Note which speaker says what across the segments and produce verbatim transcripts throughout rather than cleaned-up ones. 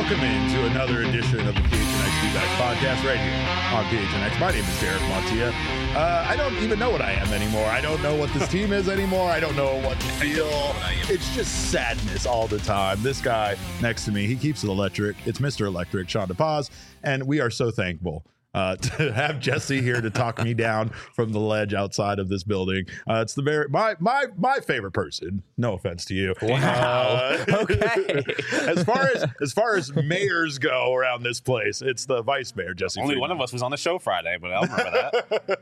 Speaker 1: Welcome into another edition of the P H N X D-Backs podcast right here on P H N X. My name is Derek Montilla. Uh, I don't even know what I am anymore. I don't know what this team is anymore. I don't know what to feel. It's just sadness all the time. This guy next to me, he keeps it electric. It's Mister Electric, Sean DePaz, and we are so thankful Uh, to have Jesse here to talk me down from the ledge outside of this building. Uh, it's the very my my my favorite person. No offense to you.
Speaker 2: Wow.
Speaker 1: Uh,
Speaker 2: okay.
Speaker 1: as far as as far as mayors go around this place, it's the vice mayor, Jesse.
Speaker 2: Only
Speaker 1: Freeman.
Speaker 2: one of us was on the show Friday, but I don't remember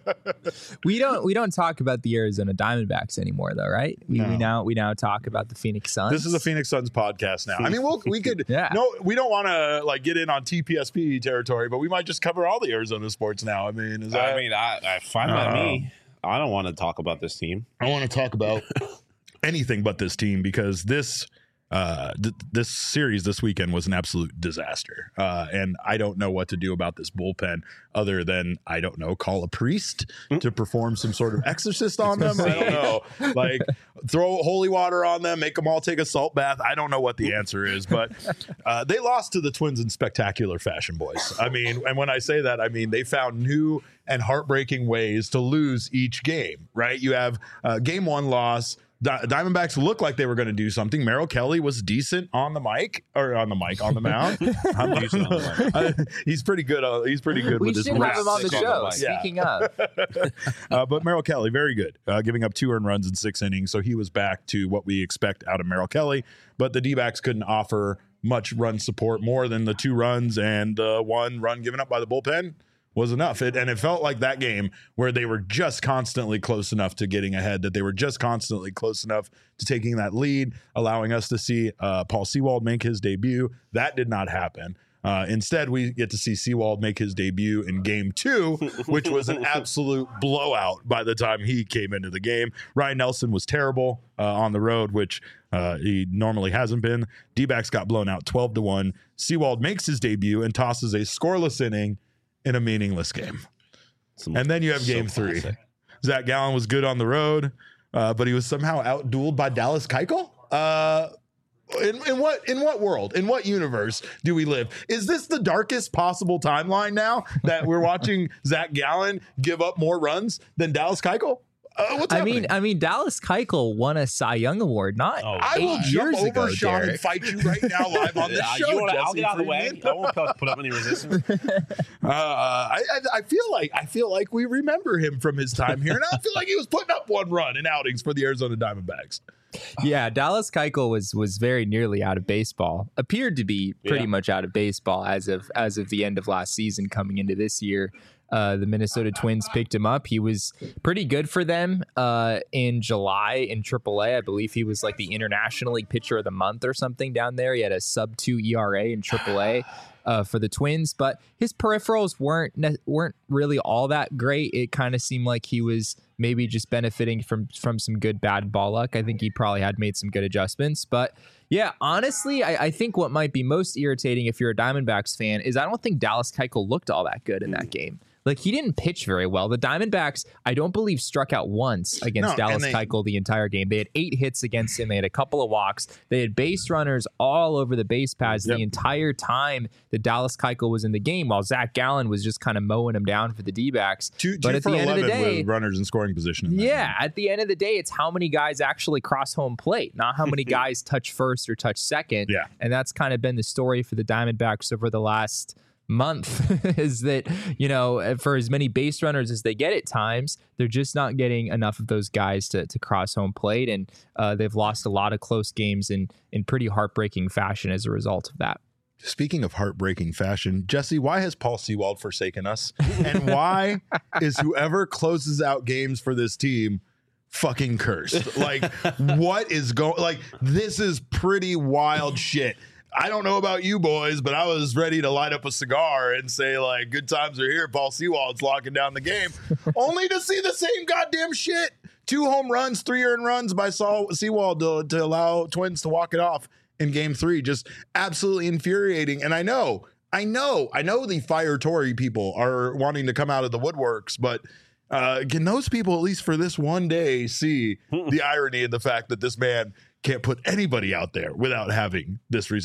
Speaker 2: that.
Speaker 3: We don't we don't talk about the Arizona Diamondbacks anymore, though, right? We,
Speaker 1: No.
Speaker 3: we now we now talk about the Phoenix Suns.
Speaker 1: This is a Phoenix Suns podcast now. I mean, we'll, we could.
Speaker 3: Yeah.
Speaker 1: No, we don't want to like get in on T P S P territory, but we might just cover all the Arizona sports now. I mean, is that?
Speaker 2: I mean, I, I fine by
Speaker 1: Uh,
Speaker 2: me. I don't want to talk about this team.
Speaker 1: I want to talk about anything but this team because this uh th- this series this weekend was an absolute disaster, uh and I don't know what to do about this bullpen other than I don't know call a priest to perform some sort of exorcist on them. I don't know, like throw holy water on them, make them all take a salt bath. I don't know what the answer is, but uh they lost to the Twins in spectacular fashion, boys. I mean, and when I say that, I mean they found new and heartbreaking ways to lose each game, right? You have uh, game one loss. Di- Diamondbacks looked like they were going to do something. Merrill Kelly was decent on the mic or on the mic on the mound. I'm decent on the mic. Uh, he's pretty good. Uh, he's pretty good
Speaker 3: we
Speaker 1: with his
Speaker 3: should have
Speaker 1: raps.
Speaker 3: him on the
Speaker 2: Stick on
Speaker 3: show.
Speaker 2: the mic.
Speaker 1: Yeah.
Speaker 3: Speaking of,
Speaker 1: uh, but Merrill Kelly, very good, uh, giving up two earned runs in six innings. So he was back to what we expect out of Merrill Kelly. But the D-backs couldn't offer much run support more than the two runs and uh, one run given up by the bullpen was enough. It, and it felt like that game where they were just constantly close enough to getting ahead, that they were just constantly close enough to taking that lead, allowing us to see uh, Paul Sewald make his debut. That did not happen. Uh, instead, we get to see Sewald make his debut in game two, which was an absolute blowout by the time he came into the game. Ryan Nelson was terrible uh, on the road, which uh, he normally hasn't been. D-backs got blown out twelve to one. Sewald makes his debut and tosses a scoreless inning in a meaningless game.
Speaker 2: Some-
Speaker 1: And then you have
Speaker 2: so
Speaker 1: game three.
Speaker 2: classic.
Speaker 1: Zach Gallen was good on the road, uh, but he was somehow out-dueled by Dallas Keuchel. Uh, in, in what in what world, in what universe do we live? Is this the darkest possible timeline now that we're watching Zach Gallen give up more runs than Dallas Keuchel? Uh, what's
Speaker 3: I
Speaker 1: happening?
Speaker 3: mean, I mean, Dallas Keuchel won a Cy Young Award not
Speaker 2: Oh,
Speaker 1: I will
Speaker 3: eight
Speaker 1: jump
Speaker 3: years
Speaker 1: over
Speaker 3: ago,
Speaker 1: Sean and
Speaker 3: Derek.
Speaker 1: fight you right now live on this
Speaker 2: Uh,
Speaker 1: show.
Speaker 2: you wanna- I'll
Speaker 1: Jesse
Speaker 2: get out of the way.
Speaker 1: Freeman.
Speaker 2: I won't put put up any resistance.
Speaker 1: Uh, I, I I feel like I feel like we remember him from his time here, and I feel like he was putting up one run in outings for the Arizona Diamondbacks.
Speaker 3: Yeah, Dallas Keuchel was was very nearly out of baseball. Appeared to be pretty
Speaker 2: Yeah.
Speaker 3: much out of baseball as of as of the end of last season, coming into this year. Uh, the Minnesota Twins picked him up. He was pretty good for them uh, in July in triple A. I believe he was like the International League Pitcher of the Month or something down there. He had a sub two E R A in triple A uh, for the Twins, but his peripherals weren't ne- weren't really all that great. It kind of seemed like he was maybe just benefiting from from some good bad ball luck. I think he probably had made some good adjustments, but yeah, honestly, I, I think what might be most irritating if you're a Diamondbacks fan is I don't think Dallas Keuchel looked all that good in that game. Like, he didn't pitch very well. The Diamondbacks, I don't believe, struck out once against
Speaker 1: No,
Speaker 3: Dallas
Speaker 1: and they-
Speaker 3: Keuchel the entire game. They had eight hits against him. They had a couple of walks. They had base runners all over the base paths
Speaker 1: Yep.
Speaker 3: the entire time that Dallas Keuchel was in the game, while Zach Gallen was just kind of mowing him down for the D-backs.
Speaker 1: Two,
Speaker 3: But
Speaker 1: two
Speaker 3: at
Speaker 1: for
Speaker 3: the end of the
Speaker 1: eleven
Speaker 3: day,
Speaker 1: with runners in scoring position. in that
Speaker 3: yeah,
Speaker 1: game.
Speaker 3: at the end of the day, it's how many guys actually cross home plate, not how many guys touch first or touch second.
Speaker 1: Yeah.
Speaker 3: And that's kind of been the story for the Diamondbacks over the last month is that, you know, for as many base runners as they get at times, they're just not getting enough of those guys to, to cross home plate. And uh, they've lost a lot of close games in, in pretty heartbreaking fashion as a result of that.
Speaker 1: Speaking of heartbreaking fashion, Jesse, why has Paul Sewald forsaken us? And why is whoever closes out games for this team fucking cursed? Like, what is going, like, this is pretty wild shit. I don't know about you boys, but I was ready to light up a cigar and say, like, good times are here. Paul Sewald's locking down the game, only to see the same goddamn shit. Two home runs, three earned runs by Saul Sewald to, to allow Twins to walk it off in game three. Just absolutely infuriating. And I know, I know, I know the Fire Tory people are wanting to come out of the woodworks, but uh, can those people, at least for this one day, see the irony in the fact that this man can't put anybody out there without having this result?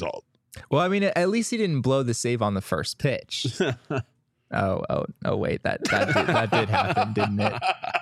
Speaker 3: Well, I mean, at least he didn't blow the save on the first pitch. oh, oh, oh! Wait, that that did, that did happen, didn't it?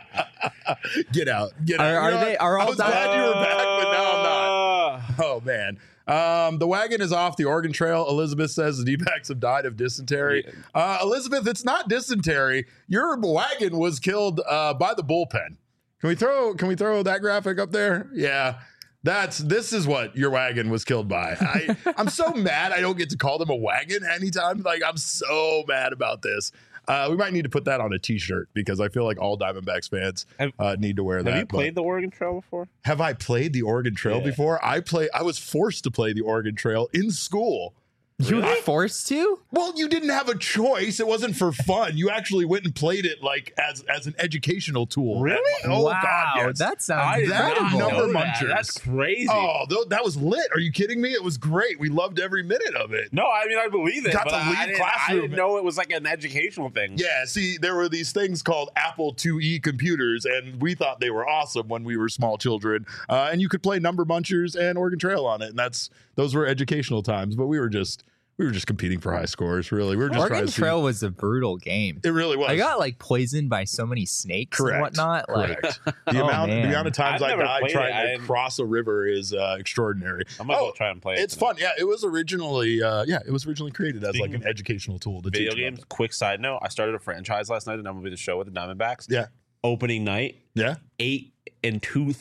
Speaker 1: Get out! Get
Speaker 3: Are,
Speaker 1: out!
Speaker 3: are
Speaker 1: You know
Speaker 3: they?
Speaker 1: what?
Speaker 3: Are
Speaker 1: I
Speaker 3: all
Speaker 1: was
Speaker 3: di-
Speaker 1: glad you were back, but now I'm not. Oh man. Um, the wagon is off the Oregon Trail. Elizabeth says the D-backs have died of dysentery. Uh, Elizabeth, it's not dysentery. Your wagon was killed uh, by the bullpen. Can we throw? Can we throw that graphic up there? Yeah. That's this is what your wagon was killed by. I, I'm so mad I don't get to call them a wagon anytime. Like, I'm so mad about this. Uh, we might need to put that on a t-shirt because I feel like all Diamondbacks fans
Speaker 2: Have-
Speaker 1: uh, need to wear that.
Speaker 2: Have you played
Speaker 1: but-
Speaker 2: the Oregon Trail before?
Speaker 1: have I played the Oregon Trail
Speaker 2: Yeah.
Speaker 1: before? I play. I was forced to play the Oregon Trail in school.
Speaker 3: You were forced to?
Speaker 1: Well, you didn't have a choice. It wasn't for fun. You actually went and played it like as as an educational tool.
Speaker 2: Really?
Speaker 1: Oh
Speaker 3: wow,
Speaker 1: God, yes.
Speaker 3: that sounds
Speaker 2: I did
Speaker 1: that
Speaker 2: not
Speaker 3: incredible.
Speaker 1: number
Speaker 2: know that.
Speaker 1: munchers.
Speaker 2: That's crazy.
Speaker 1: Oh, th- that was lit. Are you kidding me? It was great. We loved every minute of it.
Speaker 2: No, I mean I believe it.
Speaker 1: Got
Speaker 2: but
Speaker 1: to
Speaker 2: I,
Speaker 1: leave
Speaker 2: I didn't,
Speaker 1: classroom.
Speaker 2: I didn't know it was like an educational thing.
Speaker 1: Yeah, see, there were these things called Apple two E computers, and we thought they were awesome when we were small children. Uh, and you could play Number Munchers and Oregon Trail on it, and that's those were educational times. But we were just we were just competing for high scores. Really, we were just trying
Speaker 3: Oregon
Speaker 1: to see-
Speaker 3: Trail was a brutal game.
Speaker 1: It really was.
Speaker 3: I got like poisoned by so many snakes
Speaker 1: Correct.
Speaker 3: and whatnot. Like,
Speaker 1: Correct. The
Speaker 3: Oh,
Speaker 1: amount, the
Speaker 3: man.
Speaker 1: amount of times
Speaker 2: I've
Speaker 1: I
Speaker 2: never
Speaker 1: died
Speaker 2: played
Speaker 1: trying
Speaker 2: it. I
Speaker 1: to
Speaker 2: didn't-
Speaker 1: cross a river is uh, extraordinary.
Speaker 2: I'm gonna
Speaker 1: Oh,
Speaker 2: go try and play it.
Speaker 1: It's
Speaker 2: tonight.
Speaker 1: fun. Yeah, it was originally, uh, yeah, it was originally created as like
Speaker 2: Speaking
Speaker 1: an educational tool to
Speaker 2: Video
Speaker 1: teach
Speaker 2: games.
Speaker 1: them.
Speaker 2: Quick side note: I started a franchise last night, and I'm gonna be the show with the Diamondbacks.
Speaker 1: Yeah,
Speaker 2: Opening night,
Speaker 1: yeah.
Speaker 2: eight and two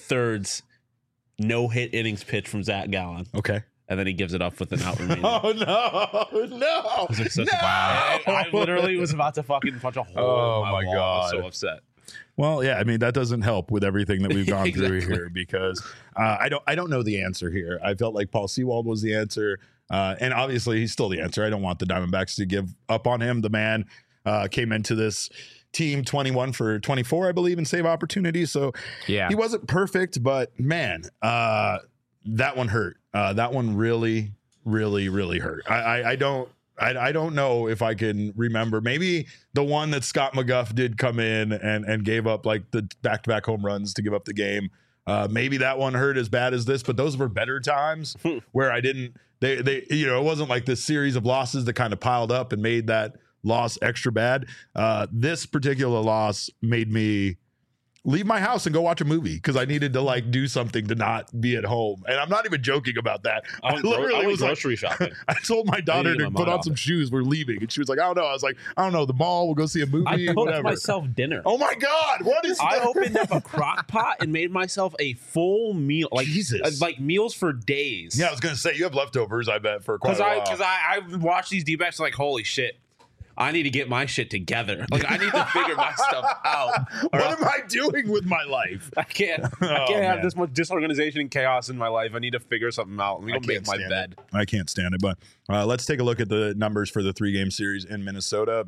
Speaker 2: thirds no hit innings pitch from Zach Gallen,
Speaker 1: Okay.
Speaker 2: and then he gives it up with an out remaining.
Speaker 1: Oh no, no,
Speaker 2: It was such
Speaker 1: no!
Speaker 2: a- I, I literally was about to fucking punch a hole.
Speaker 1: Oh,
Speaker 2: in
Speaker 1: my
Speaker 2: wall. I was
Speaker 1: God.
Speaker 2: so upset.
Speaker 1: Well, yeah, I mean that doesn't help with everything that we've gone through
Speaker 2: Exactly.
Speaker 1: here because uh, I don't I don't know the answer here. I felt like Paul Sewald was the answer, uh, and obviously he's still the answer. I don't want the Diamondbacks to give up on him. The man uh, came into this team twenty-one for twenty-four, I believe, in save opportunities. So
Speaker 3: yeah.
Speaker 1: he wasn't perfect, but man, uh, that one hurt. Uh, that one really, really, really hurt. I, I, I don't. I, I don't know if I can remember. Maybe the one that Scott McGuff did come in and, and gave up like the back-to-back home runs to give up the game. Uh, maybe that one hurt as bad as this, but those were better times where I didn't. They they you know it wasn't like this series of losses that kind of piled up and made that loss extra bad. Uh, this particular loss made me leave my house and go watch a movie because I needed to like do something to not be at home. And I'm not even joking about that.
Speaker 2: I went, gro- I went
Speaker 1: was like,
Speaker 2: grocery shopping.
Speaker 1: I told my daughter
Speaker 2: get
Speaker 1: to
Speaker 2: my
Speaker 1: put
Speaker 2: mind
Speaker 1: on
Speaker 2: off
Speaker 1: some
Speaker 2: it.
Speaker 1: shoes. We're leaving. And she was like, I don't know. I was like, I don't know. The mall. We'll go see a movie.
Speaker 2: I cooked
Speaker 1: whatever.
Speaker 2: myself dinner.
Speaker 1: Oh my God. What is
Speaker 2: I
Speaker 1: that?
Speaker 2: opened up a crock pot and made myself a full meal, like
Speaker 1: Jesus.
Speaker 2: uh, like meals for days.
Speaker 1: Yeah, I was going to say, you have leftovers, I bet, for quite
Speaker 2: because
Speaker 1: a
Speaker 2: I
Speaker 1: while.
Speaker 2: because I I watched these D-backs like holy shit. I need to get my shit together. Like I need to figure my stuff out.
Speaker 1: What am I doing with my life?
Speaker 2: I can't. I
Speaker 1: Oh,
Speaker 2: can't have
Speaker 1: man.
Speaker 2: this much disorganization and chaos in my life. I need to figure something out. Let me
Speaker 1: I
Speaker 2: go make
Speaker 1: can't
Speaker 2: my
Speaker 1: stand
Speaker 2: bed.
Speaker 1: I can't stand it. But uh, let's take a look at the numbers for the three game series in Minnesota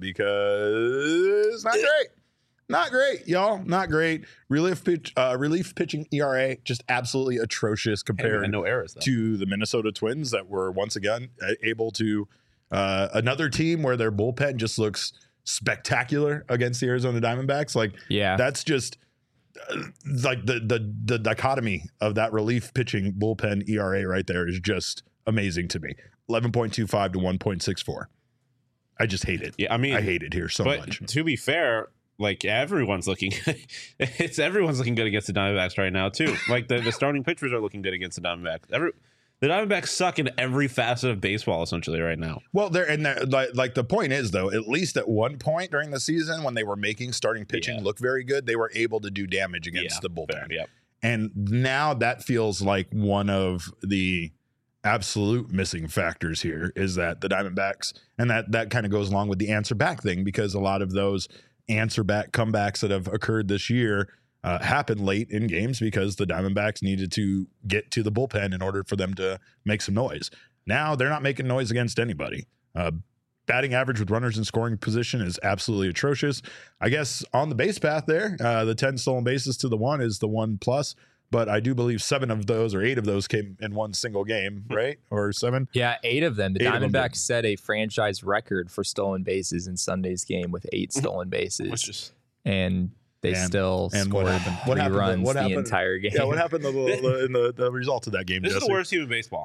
Speaker 1: because not great. Not great, y'all. Not great. Relief pitch, uh, relief pitching E R A just absolutely atrocious
Speaker 2: Hey,
Speaker 1: compared
Speaker 2: and no errors though.
Speaker 1: to the Minnesota Twins that were once again uh, able to uh, another team where their bullpen just looks spectacular against the Arizona Diamondbacks. Like
Speaker 3: Yeah.
Speaker 1: that's just uh, like the the the dichotomy of that relief pitching bullpen E R A right there is just amazing to me. eleven point two five to one point six four. I just hate it.
Speaker 2: Yeah, I mean,
Speaker 1: I hate it here so
Speaker 2: but
Speaker 1: much.
Speaker 2: to be fair, like everyone's looking, it's everyone's looking good against the Diamondbacks right now too. Like the, the starting pitchers are looking good against the Diamondbacks. Every the Diamondbacks suck in every facet of baseball essentially right now.
Speaker 1: Well, there and there, like, like the point is though, at least at one point during the season when they were making starting pitching
Speaker 2: Yeah.
Speaker 1: look very good, they were able to do damage against
Speaker 2: Yeah,
Speaker 1: the bullpen.
Speaker 2: fair, yep.
Speaker 1: And now that feels like one of the absolute missing factors here is that the Diamondbacks, and that that kind of goes along with the answer back thing because a lot of those answer back comebacks that have occurred this year uh, happened late in games because the Diamondbacks needed to get to the bullpen in order for them to make some noise. Now they're not making noise against anybody. Uh, batting average with runners in scoring position is absolutely atrocious. I guess on the base path there, uh, the ten stolen bases to the one is the one plus. But I do believe seven of those or eight of those came in one single game, right? Or seven?
Speaker 3: Yeah, eight of them. The
Speaker 1: Eight of them
Speaker 3: Diamondbacks
Speaker 1: did.
Speaker 3: set a franchise record for stolen bases in Sunday's game with eight stolen bases,
Speaker 2: Which is
Speaker 3: and they
Speaker 1: And-
Speaker 3: still
Speaker 1: and what
Speaker 3: scored
Speaker 1: happened? What
Speaker 3: three
Speaker 1: happened?
Speaker 3: runs
Speaker 1: What
Speaker 3: the
Speaker 1: happened?
Speaker 3: entire game.
Speaker 1: Yeah, what happened the, the, in the, the result of that game,
Speaker 2: this is
Speaker 1: Jesse?
Speaker 2: the worst team in baseball.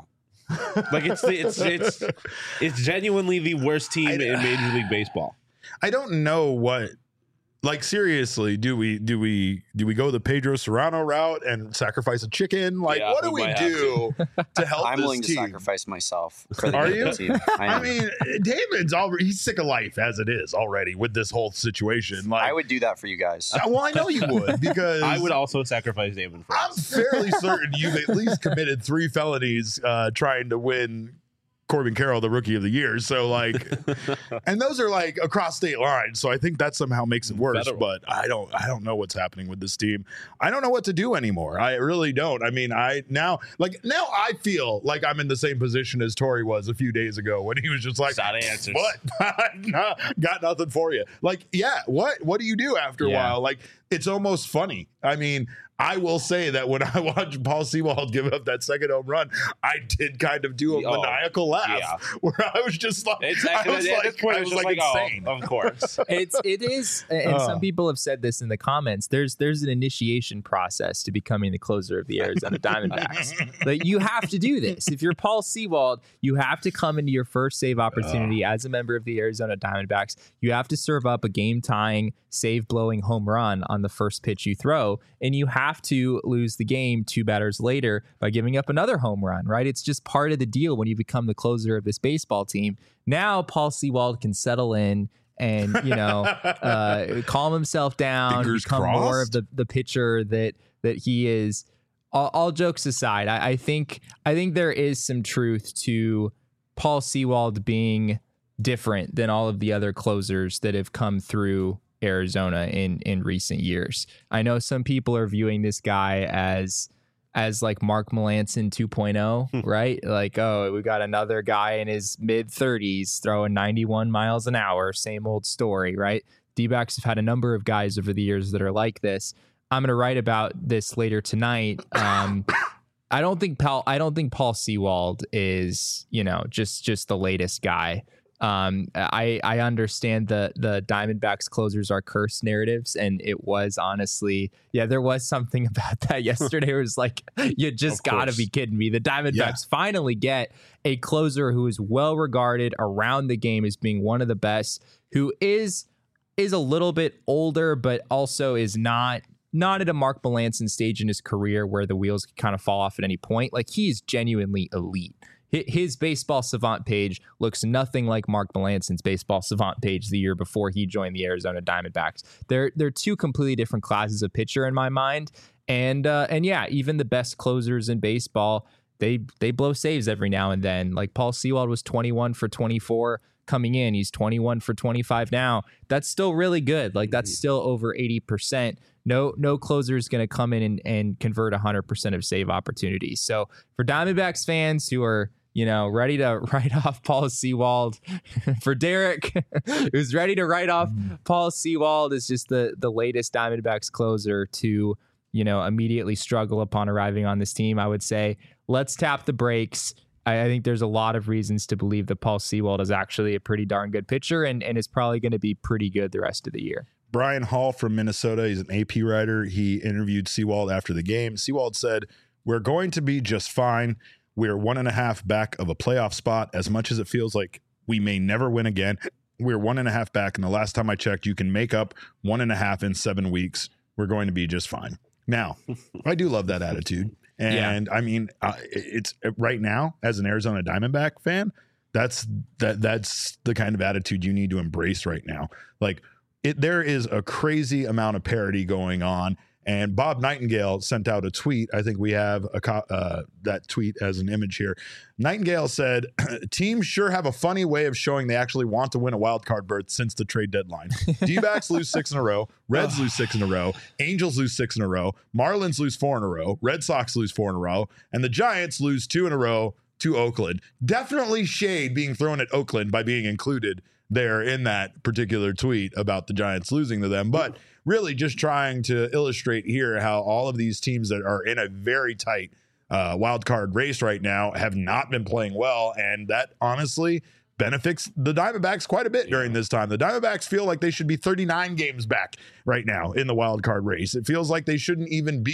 Speaker 2: Like it's it's it's it's genuinely the worst team in Major League Baseball.
Speaker 1: I don't know what. Like, seriously, do we do we do we go the Pedro Serrano route and sacrifice a chicken? Like,
Speaker 2: Yeah,
Speaker 1: what do
Speaker 2: we
Speaker 1: we
Speaker 2: might
Speaker 1: do to help
Speaker 4: I'm
Speaker 1: this
Speaker 4: willing
Speaker 1: team?
Speaker 4: to sacrifice myself for the
Speaker 1: Are
Speaker 4: good
Speaker 1: you?
Speaker 4: of the team. I,
Speaker 1: I
Speaker 4: am.
Speaker 1: mean, David's already he's sick of life as it is already with this whole situation. Like,
Speaker 4: I would do that for you guys.
Speaker 1: Uh, well, I know you would because
Speaker 2: I would also sacrifice Damon for
Speaker 1: I'm
Speaker 2: us.
Speaker 1: fairly certain you've at least committed three felonies uh, trying to win Corbin Carroll the Rookie of the Year. So like, and those are like across state lines. So I think that somehow makes it worse.
Speaker 2: Federal.
Speaker 1: But I don't, I don't know what's happening with this team. I don't know what to do anymore. I really don't. I mean, I now like now I feel like I'm in the same position as Torrey was a few days ago when he was just like,
Speaker 2: Sad answers.
Speaker 1: "What? Nah, got nothing for you." Like, yeah, what? What do you do after a
Speaker 3: Yeah.
Speaker 1: while? Like, it's almost funny. I mean, I will say that when I watched Paul Sewald give up that second home run, I did kind of do a
Speaker 2: Oh,
Speaker 1: maniacal laugh
Speaker 2: yeah.
Speaker 1: where I was just like,
Speaker 2: It's
Speaker 1: I was
Speaker 2: at
Speaker 1: like,
Speaker 2: this point,
Speaker 1: I
Speaker 2: it's
Speaker 1: was
Speaker 2: just
Speaker 1: like,
Speaker 2: like, oh,
Speaker 1: insane.
Speaker 2: of course.
Speaker 3: It's it is, and
Speaker 1: Oh.
Speaker 3: some people have said this in the comments. There's there's an initiation process to becoming the closer of the Arizona Diamondbacks. Like, you have to do this. If you're Paul Sewald, you have to come into your first save opportunity as a member of the Arizona Diamondbacks. You have to serve up a game tying, save blowing home run on the first pitch you throw, and you have to lose the game two batters later by giving up another home run. Right? It's just part of the deal when you become the closer of this baseball team. Now Paul Sewald can settle in and, you know, uh, calm himself down,
Speaker 1: Fingers
Speaker 3: become more
Speaker 1: crossed.
Speaker 3: of the, the pitcher that that he is. All, all jokes aside, I, I think I think there is some truth to Paul Sewald being different than all of the other closers that have come through Arizona in in recent years. I know some people are viewing this guy as as like Mark Melancon two point oh, right? Like, oh, we got another guy in his mid thirties throwing ninety-one miles an hour, same old story, right? D-backs have had a number of guys over the years that are like this. I'm going to write about this later tonight. Um, I don't think Paul I don't think Paul Sewald is, you know, just just the latest guy. Um, I I understand the the Diamondbacks closers are cursed narratives, and it was honestly, yeah, there was something about that yesterday. It was like, you just
Speaker 1: Of
Speaker 3: gotta
Speaker 1: course.
Speaker 3: be kidding me. The Diamondbacks
Speaker 1: Yeah.
Speaker 3: finally get a closer who is well regarded around the game as being one of the best, who is is a little bit older, but also is not not at a Mark Melancon stage in his career where the wheels can kind of fall off at any point. Like, he's genuinely elite. His baseball savant page looks nothing like Mark Melancon's baseball savant page the year before he joined the Arizona Diamondbacks. They're they're two completely different classes of pitcher in my mind. And uh, and yeah, even the best closers in baseball, they they blow saves every now and then. Like, Paul Sewald was twenty-one for twenty-four coming in. He's twenty-one for twenty-five now. That's still really good. Like, that's still over eighty percent. No, no closer is going to come in and, and convert one hundred percent of save opportunities. So for Diamondbacks fans who are, you know, ready to write off Paul Sewald, for Derek, who's ready to write off Paul Sewald as just the, the latest Diamondbacks closer to, you know, immediately struggle upon arriving on this team, I would say, let's tap the brakes. I, I think there's a lot of reasons to believe that Paul Sewald is actually a pretty darn good pitcher and, and is probably going to be pretty good the rest of the year.
Speaker 1: Brian Hall from Minnesota, he's an A P writer. He interviewed Sewald after the game. Sewald said, "We're going to be just fine. We're one and a half back of a playoff spot. As much as it feels like we may never win again, we're one and a half back. And the last time I checked, you can make up one and a half in seven weeks. We're going to be just fine." Now, I do love that attitude. And I mean, uh, it's right now as an Arizona Diamondback fan, that's that that's the kind of attitude you need to embrace right now. Like, it, there is a crazy amount of parody going on. And Bob Nightingale sent out a tweet. I think we have a co- uh, that tweet as an image here. Nightingale said, "Teams sure have a funny way of showing they actually want to win a wild card berth since the trade deadline. D-backs lose six in a row. Reds lose six in a row. Angels lose six in a row. Marlins lose four in a row. Red Sox lose four in a row. And the Giants lose two in a row to Oakland." Definitely shade being thrown at Oakland by being included there in that particular tweet about the Giants losing to them. But really just trying to illustrate here how all of these teams that are in a very tight uh, wild card race right now have not been playing well. And that honestly benefits the Diamondbacks quite a bit during this time. The Diamondbacks feel like they should be thirty-nine games back right now in the wild card race. It feels like they shouldn't even be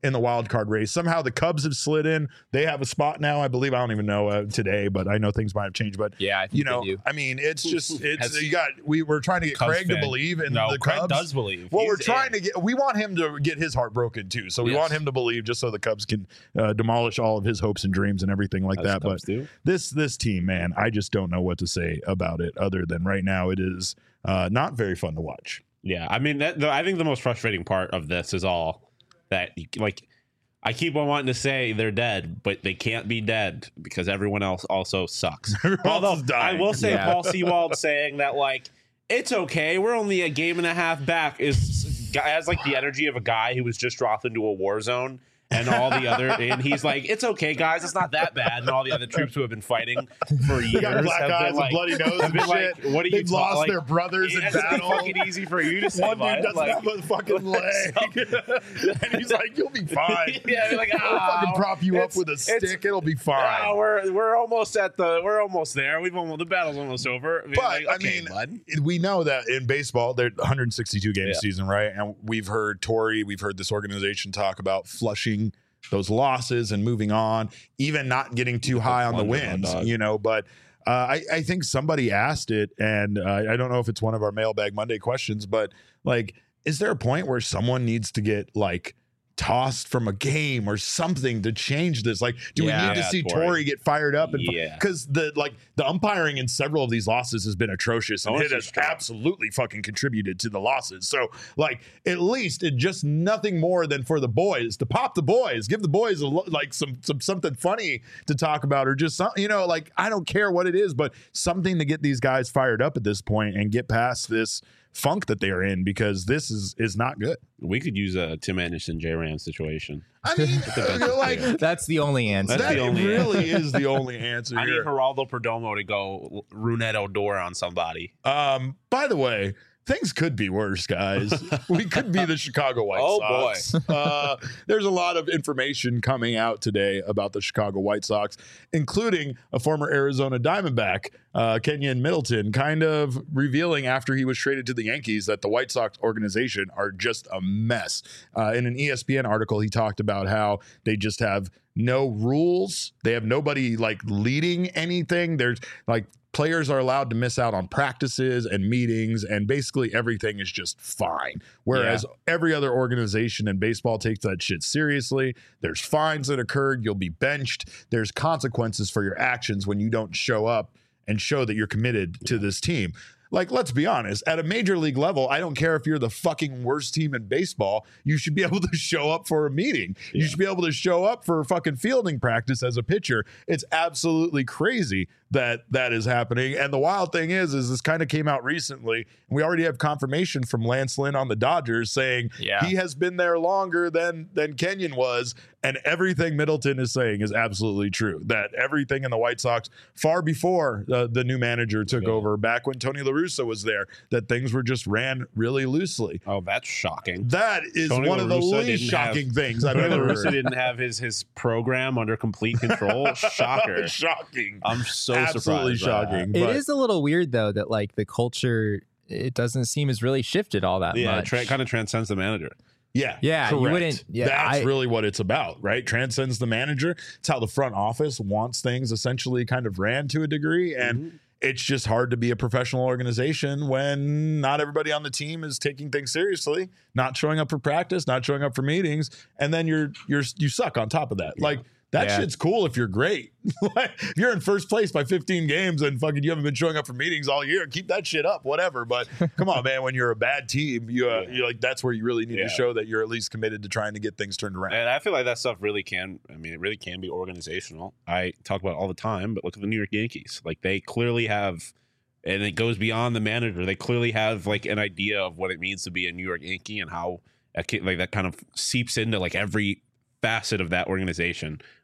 Speaker 1: in the wild card race. Somehow the Cubs have slid in. They have a spot now, I believe. I don't even know uh, today, but I know things might have changed. But
Speaker 3: Yeah, I think
Speaker 1: you know,
Speaker 3: they do.
Speaker 1: I mean, it's just it's
Speaker 2: Has-
Speaker 1: you got we we're trying to get
Speaker 2: Cubs
Speaker 1: Craig
Speaker 2: fan.
Speaker 1: to believe in
Speaker 2: No,
Speaker 1: the
Speaker 2: Craig
Speaker 1: Cubs.
Speaker 2: does believe.
Speaker 1: Well,
Speaker 2: He's
Speaker 1: we're trying
Speaker 2: in.
Speaker 1: to get we want him to get his heart broken too. So we
Speaker 2: Yes.
Speaker 1: want him to believe just so the Cubs can uh, demolish all of his hopes and dreams and everything like
Speaker 2: As
Speaker 1: that. But
Speaker 2: Cubs do.
Speaker 1: this this team, man, I just don't know what to say about it other than right now it is uh, not very fun to watch.
Speaker 2: Yeah, I mean, that, the, I think the most frustrating part of this is all that, like, I keep on wanting to say they're dead, but they can't be dead because everyone else also sucks.
Speaker 1: Everyone else
Speaker 2: Although
Speaker 1: is dying.
Speaker 2: I will say,
Speaker 3: Yeah.
Speaker 2: Paul Sewald saying that, like, it's okay, we're only a game and a half back, is has like the energy of a guy who was just dropped into a war zone. And all the other, and he's like, "It's okay, guys. It's not that bad." And all the other troops who have been fighting for years
Speaker 1: They got black
Speaker 2: have
Speaker 1: eyes
Speaker 2: been
Speaker 1: and
Speaker 2: like,
Speaker 1: bloody nose
Speaker 2: have
Speaker 1: and
Speaker 2: been
Speaker 1: shit.
Speaker 2: like, "What are you
Speaker 1: They've
Speaker 2: ta-
Speaker 1: lost
Speaker 2: like,
Speaker 1: their brothers in
Speaker 2: It's
Speaker 1: battle.
Speaker 2: fucking easy for you to say.
Speaker 1: One dude
Speaker 2: bud.
Speaker 1: doesn't
Speaker 2: Like,
Speaker 1: have a fucking leg, and he's like, "You'll be fine."
Speaker 2: yeah, like,
Speaker 1: I'll fucking
Speaker 2: "Oh,
Speaker 1: prop you up
Speaker 2: it's-
Speaker 1: with a
Speaker 2: it's-
Speaker 1: stick. It'll be fine.
Speaker 2: Oh, we're we're almost at the we're almost there. We've almost the battle's almost over. I mean,
Speaker 1: But
Speaker 2: like,
Speaker 1: I
Speaker 2: okay,
Speaker 1: mean,
Speaker 2: bud.
Speaker 1: we know that in baseball, they're one hundred sixty-two game
Speaker 2: Yeah.
Speaker 1: season, right? And we've heard Tory, we've heard this organization talk about flushing those losses and moving on, even not getting too high on the
Speaker 2: Wonder, my
Speaker 1: wins,
Speaker 2: dog.
Speaker 1: you know. But uh, I, I think somebody asked it, and uh, I don't know if it's one of our Mailbag Monday questions, but like, is there a point where someone needs to get like tossed from a game or something to change this? Like, do
Speaker 3: Yeah.
Speaker 1: we need to
Speaker 2: Yeah,
Speaker 1: see
Speaker 2: Tory.
Speaker 1: Tory get fired up? And
Speaker 2: Yeah.
Speaker 1: because the like the umpiring in several of these losses has been atrocious, and
Speaker 2: Oh,
Speaker 1: it
Speaker 2: it's
Speaker 1: has
Speaker 2: just strong.
Speaker 1: absolutely fucking contributed to the losses. So, like, at least it just nothing more than for the boys to pop the boys, give the boys a lo- like some some something funny to talk about, or just some, you know, like, I don't care what it is, but something to get these guys fired up at this point and get past this funk that they are in, because this is is not good.
Speaker 2: We could use a Tim Anderson, J Ram situation.
Speaker 1: I mean,
Speaker 2: best
Speaker 1: like
Speaker 3: That's the only answer.
Speaker 2: That's
Speaker 1: that
Speaker 2: the only
Speaker 1: really is the only answer
Speaker 2: I need
Speaker 1: here.
Speaker 2: Geraldo Perdomo to go Runette Odor on somebody.
Speaker 1: Um, by the way, things could be worse, guys. We could be the Chicago White
Speaker 2: Oh,
Speaker 1: Sox. Uh, there's a lot of information coming out today about the Chicago White Sox, including a former Arizona Diamondback, uh, Kenyon Middleton, kind of revealing after he was traded to the Yankees that the White Sox organization are just a mess. Uh, in an E S P N article, he talked about how they just have no rules. They have nobody like leading anything. There's like players are allowed to miss out on practices and meetings, and basically everything is just fine. Whereas every other organization in baseball takes that shit seriously. There's fines that occurred. You'll be benched. There's consequences for your actions when you don't show up and show that you're committed to this team. Like, let's be honest, at a major league level, I don't care if you're the fucking worst team in baseball. You should be able to show up for a meeting. You
Speaker 2: Yeah.
Speaker 1: should be able to show up for fucking fielding practice as a pitcher. It's absolutely crazy that that is happening. And the wild thing is, is this kind of came out recently. We already have confirmation from Lance Lynn on the Dodgers saying
Speaker 3: Yeah.
Speaker 1: he has been there longer than than Kenyon was. And everything Middleton is saying is absolutely true. That everything in the White Sox, far before uh, the new manager took
Speaker 2: Yeah.
Speaker 1: over, back when Tony La Russa was there, that things were just ran really loosely.
Speaker 2: Oh, that's shocking.
Speaker 1: That is
Speaker 2: Tony
Speaker 1: one
Speaker 2: La
Speaker 1: of the
Speaker 2: Russa
Speaker 1: least
Speaker 2: didn't
Speaker 1: shocking
Speaker 2: have-
Speaker 1: things I've
Speaker 2: Tony La
Speaker 1: ever
Speaker 2: Russa
Speaker 1: heard.
Speaker 2: didn't have his his program under complete control. Shocker.
Speaker 1: Shocking.
Speaker 2: I'm so
Speaker 1: Absolutely
Speaker 2: surprised. by that.
Speaker 1: shocking.
Speaker 3: It
Speaker 1: but
Speaker 3: is a little weird though that like the culture, it doesn't seem has really shifted all that
Speaker 2: Yeah, it
Speaker 3: much.
Speaker 2: tra- kind of transcends the manager.
Speaker 1: Yeah,
Speaker 3: Yeah, you
Speaker 1: correct.
Speaker 3: wouldn't- yeah,
Speaker 1: That's
Speaker 3: I-
Speaker 1: really what it's about, right? Transcends the manager. It's how the front office wants things essentially kind of ran to a degree, and
Speaker 2: Mm-hmm.
Speaker 1: it's just hard to be a professional organization when not everybody on the team is taking things seriously, not showing up for practice, not showing up for meetings, and then you're you're you suck on top of that. Like, that
Speaker 3: Yeah.
Speaker 1: shit's cool if you're great. Like, if you're in first place by fifteen games and fucking you haven't been showing up for meetings all year, keep that shit up, whatever. But come on, man, when you're a bad team, you uh,
Speaker 2: Yeah.
Speaker 1: you're like, that's where you really need
Speaker 2: Yeah.
Speaker 1: to show that you're at least committed to trying to get things turned around.
Speaker 2: And I feel like that stuff really can, I mean, it really can be organizational. I talk about it all the time, but look at the New York Yankees. Like, they clearly have, and it goes beyond the manager, they clearly have, like, an idea of what it means to be a New York Yankee and how, that ca- like, that kind of seeps into, like, every facet of that organization.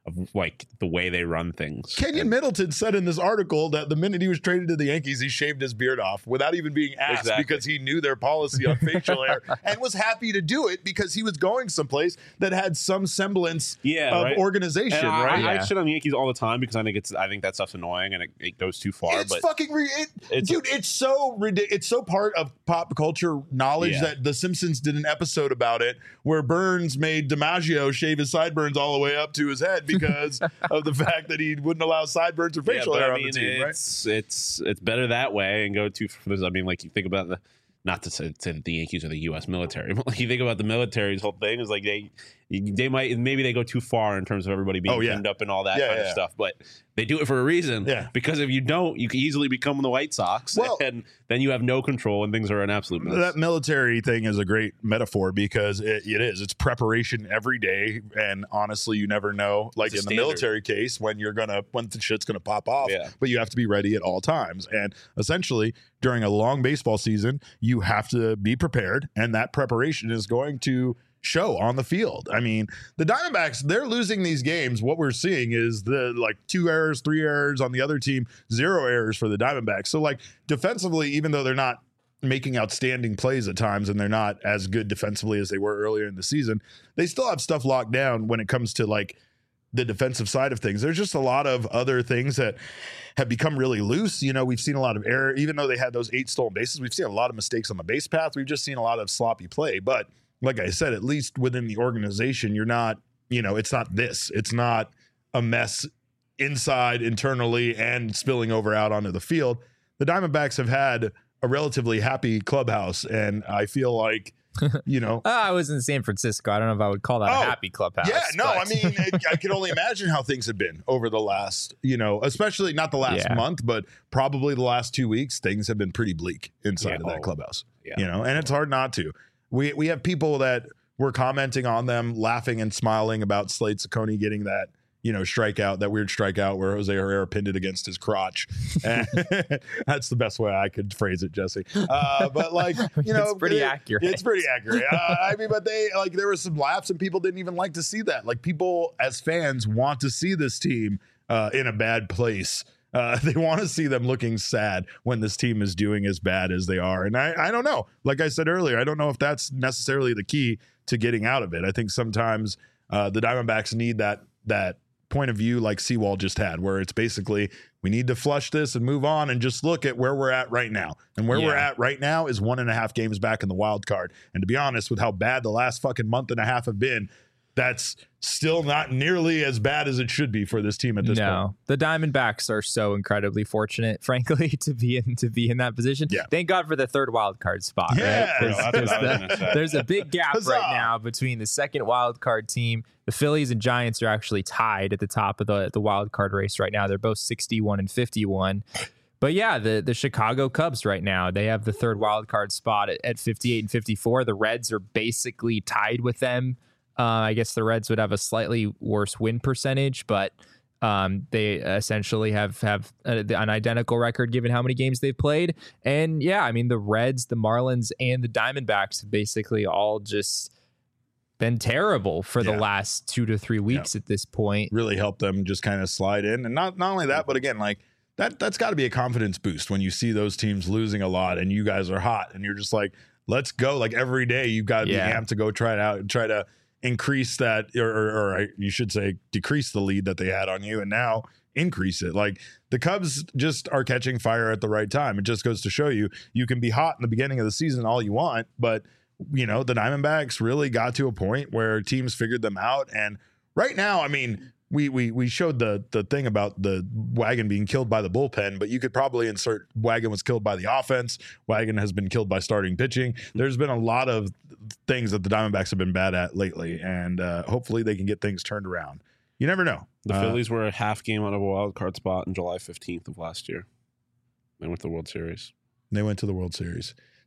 Speaker 2: of like the way they run things.
Speaker 1: Kenyon Middleton said in this article that the minute he was traded to the Yankees, he shaved his beard off without even being asked
Speaker 2: Exactly.
Speaker 1: because he knew their policy on facial hair and was happy to do it because he was going someplace that had some semblance
Speaker 2: Yeah,
Speaker 1: of
Speaker 2: right.
Speaker 1: organization,
Speaker 2: And I,
Speaker 1: right?
Speaker 2: I, I
Speaker 3: Yeah.
Speaker 2: shit on the Yankees all the time because I think it's I think that stuff's annoying and it, it goes too far.
Speaker 1: It's
Speaker 2: but
Speaker 1: fucking re- it,
Speaker 2: It's-
Speaker 1: dude. It's so ridiculous. It's so part of pop culture knowledge
Speaker 2: Yeah.
Speaker 1: that The Simpsons did an episode about it where Burns made DiMaggio shave his sideburns all the way up to his head because of the fact that he wouldn't allow sideburns or
Speaker 2: yeah,
Speaker 1: facial
Speaker 2: but
Speaker 1: hair
Speaker 2: I
Speaker 1: on
Speaker 2: mean,
Speaker 1: the team. Right?
Speaker 2: it's it's it's better that way and go too. I mean, like you think about the. Not to say, say that the Yankees are the U S military, but like you think about the military's whole thing is like they they might maybe they go too far in terms of everybody being
Speaker 1: Oh, yeah.
Speaker 2: pinned up and all that
Speaker 1: Yeah,
Speaker 2: kind
Speaker 1: yeah.
Speaker 2: of stuff. But they do it for a reason.
Speaker 1: Yeah.
Speaker 2: Because if you don't, you can easily become the White Sox,
Speaker 1: Well-
Speaker 2: and then you have no control and things are an absolute mess.
Speaker 1: That military thing is a great metaphor because it, it is. It's preparation every day, and honestly, you never know. Like
Speaker 2: It's
Speaker 1: in
Speaker 2: a
Speaker 1: the
Speaker 2: standard.
Speaker 1: military case, when you're gonna when the shit's gonna pop off.
Speaker 2: Yeah.
Speaker 1: But you have to be ready at all times. And essentially, during a long baseball season, you have to be prepared, and that preparation is going to show on the field. I mean, the Diamondbacks, they're losing these games. What we're seeing is the like two errors, three errors on the other team, zero errors for the Diamondbacks. So like defensively, even though they're not making outstanding plays at times and they're not as good defensively as they were earlier in the season, they still have stuff locked down when it comes to like the defensive side of things. There's just a lot of other things that have become really loose. You know, we've seen a lot of error, even though they had those eight stolen bases. We've seen a lot of mistakes on the base path. We've just seen a lot of sloppy play. But like I said, at least within the organization, you're not, you know, it's not this. It's not a mess inside, internally, and spilling over out onto the field. The Diamondbacks have had a relatively happy clubhouse, and I feel like, you know,
Speaker 3: Uh, I was in San Francisco. I don't know if I would call that
Speaker 1: Oh,
Speaker 3: a happy clubhouse.
Speaker 1: yeah, no,
Speaker 3: but-
Speaker 1: I mean, it, I can only imagine how things have been over the last, you know, especially not the last
Speaker 3: Yeah.
Speaker 1: month, but probably the last two weeks. Things have been pretty bleak inside
Speaker 2: Yeah.
Speaker 1: of that
Speaker 2: Oh,
Speaker 1: clubhouse,
Speaker 2: yeah.
Speaker 1: you know, and it's hard not to. We we have people that were commenting on them, laughing and smiling about Slade Ciccone getting that, you know, strikeout, that weird strikeout where Jose Herrera pinned it against his crotch. And that's the best way I could phrase it, Jesse. Uh, but like, you know,
Speaker 3: It's pretty
Speaker 1: it-
Speaker 3: accurate.
Speaker 1: It's pretty accurate. Uh, I mean, but they like there were some laughs and people didn't even like to see that. Like people as fans want to see this team uh, in a bad place. Uh, they want to see them looking sad when this team is doing as bad as they are. And I, I don't know. Like I said earlier, I don't know if that's necessarily the key to getting out of it. I think sometimes uh, the Diamondbacks need that that point of view like Seawald just had, where it's basically we need to flush this and move on and just look at where we're at right now. And where we're
Speaker 2: Yeah.
Speaker 1: at right now is one and a half games back in the wild card. And to be honest, with how bad the last fucking month and a half have been, that's still not nearly as bad as it should be for this team at this point.
Speaker 3: No, the Diamondbacks are so incredibly fortunate, frankly, to be in to be in that position.
Speaker 1: Yeah.
Speaker 3: Thank God for the third wild card spot.
Speaker 1: Yeah,
Speaker 3: right? 'Cause-
Speaker 2: that's what I was
Speaker 3: 'cause
Speaker 2: gonna
Speaker 3: the-
Speaker 2: say.
Speaker 3: there's a big gap
Speaker 1: Huzzah.
Speaker 3: right now between the second wild card team. The Phillies and Giants are actually tied at the top of the the wild card race right now. They're both sixty-one and fifty-one. But yeah, the, the Chicago Cubs right now, they have the third wild card spot at, at fifty-eight and fifty-four. The Reds are basically tied with them. Uh, I guess the Reds would have a slightly worse win percentage, but um, they essentially have have a, an identical record given how many games they've played. And yeah, I mean, the Reds, the Marlins, and the Diamondbacks have basically all just been terrible for
Speaker 1: Yeah.
Speaker 3: the last two to three weeks at this point.
Speaker 1: Really help them just kind of slide in. And not not only that, but again, like that that's got to be a confidence boost when you see those teams losing a lot and you guys are hot and you're just like, let's go. Like every day you've got to be
Speaker 3: Yeah.
Speaker 1: amped to go try it out and try to increase that, or, or, or I- you should say decrease the lead that they had on you and now increase it. Like the Cubs just are catching fire at the right time. It just goes to show you, you can be hot in the beginning of the season all you want, but you know, the Diamondbacks really got to a point where teams figured them out. And right now, I mean, we we we showed the the thing about the Wagon being killed by the bullpen, but you could probably insert Wagon was killed by the offense. Wagon has been killed by starting pitching. There's been a lot of things that the Diamondbacks have been bad at lately, and uh, hopefully they can get things turned around. You never know.
Speaker 2: The
Speaker 1: Uh,
Speaker 2: Phillies were a half game out of a wild card spot on July fifteenth of last year. They went to the World Series.
Speaker 1: They went to the World Series.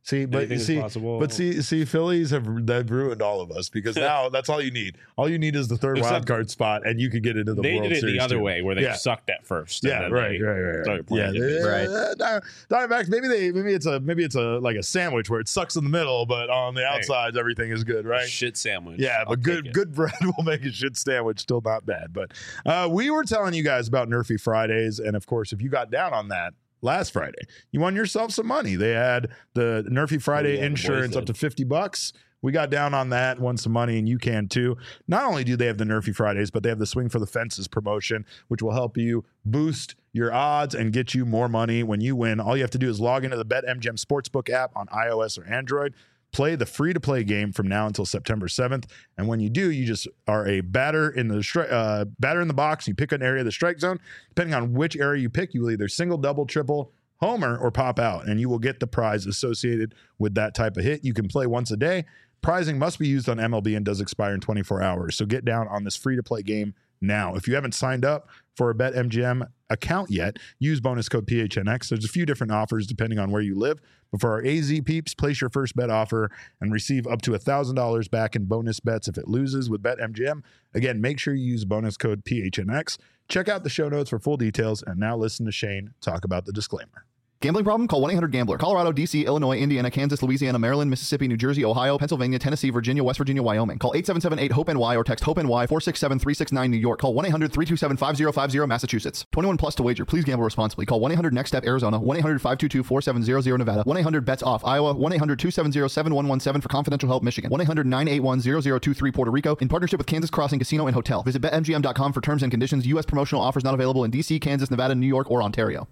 Speaker 1: See, but
Speaker 2: Anything is
Speaker 1: see,
Speaker 2: possible.
Speaker 1: but see, see, Phillies have they've ruined all of us because now that's all you need. All you need is the third
Speaker 2: Except
Speaker 1: wild card spot, and you could get into the
Speaker 2: they
Speaker 1: World
Speaker 2: did it
Speaker 1: Series
Speaker 2: the other
Speaker 1: too.
Speaker 2: way, where they
Speaker 1: Yeah.
Speaker 2: sucked at first. and
Speaker 1: Yeah,
Speaker 2: then
Speaker 1: right,
Speaker 2: they
Speaker 1: right, right, right.
Speaker 2: started
Speaker 1: Yeah,
Speaker 2: playing
Speaker 1: they,
Speaker 3: Right.
Speaker 1: uh, Di- Diamondbacks. Maybe they, maybe it's a, maybe it's a like a sandwich where it sucks in the middle, but on the outsides everything is good, right?
Speaker 2: Shit sandwich.
Speaker 1: Yeah,
Speaker 2: I'll
Speaker 1: but good
Speaker 2: take it.
Speaker 1: good bread will make a shit sandwich still not bad. But uh, we were telling you guys about Nerfy Fridays, and of course, if you got down on that last Friday, you won yourself some money. They had the Nerfy Friday
Speaker 2: Oh, yeah, the boys
Speaker 1: insurance up
Speaker 2: did.
Speaker 1: to fifty bucks. We got down on that, won some money, and you can too. Not only do they have the Nerfy Fridays, but they have the Swing for the Fences promotion, which will help you boost your odds and get you more money when you win. All you have to do is log into the BetMGM Sportsbook app on iOS or Android. Play the free-to-play game from now until September seventh, and when you do, you just are a batter in the stri- uh, batter in the box. You pick an area of the strike zone. Depending on which area you pick, you will either single, double, triple, homer, or pop out, and you will get the prize associated with that type of hit. You can play once a day. Prizing must be used on M L B and does expire in twenty-four hours. So get down on this free-to-play game now. If you haven't signed up for a BetMGM account yet, use bonus code P H N X. There's a few different offers depending on where you live. But for our A Z peeps, place your first bet offer and receive up to one thousand dollars back in bonus bets if it loses with BetMGM. Again, make sure you use bonus code P H N X. Check out the show notes for full details. And now listen to Shane talk about the disclaimer.
Speaker 5: Gambling problem? Call one eight hundred gambler. Colorado, D C, Illinois, Indiana, Kansas, Louisiana, Maryland, Mississippi, New Jersey, Ohio, Pennsylvania, Tennessee, Virginia, West Virginia, Wyoming. Call eight seven seven eight hope N Y or text HOPE-NY four six seven three six nine New York. Call one eight hundred three two seven five zero five zero Massachusetts. twenty-one plus to wager. Please gamble responsibly. Call one eight hundred next step Arizona. one eight hundred five two two four seven zero zero Nevada. one eight hundred bets off Iowa. one eight hundred two seven zero seven one one seven for confidential help Michigan. one eight hundred nine eight one zero zero two three Puerto Rico. In partnership with Kansas Crossing Casino and Hotel. Visit bet M G M dot com for terms and conditions. U S promotional offers not available in D C, Kansas, Nevada, New York, or Ontario.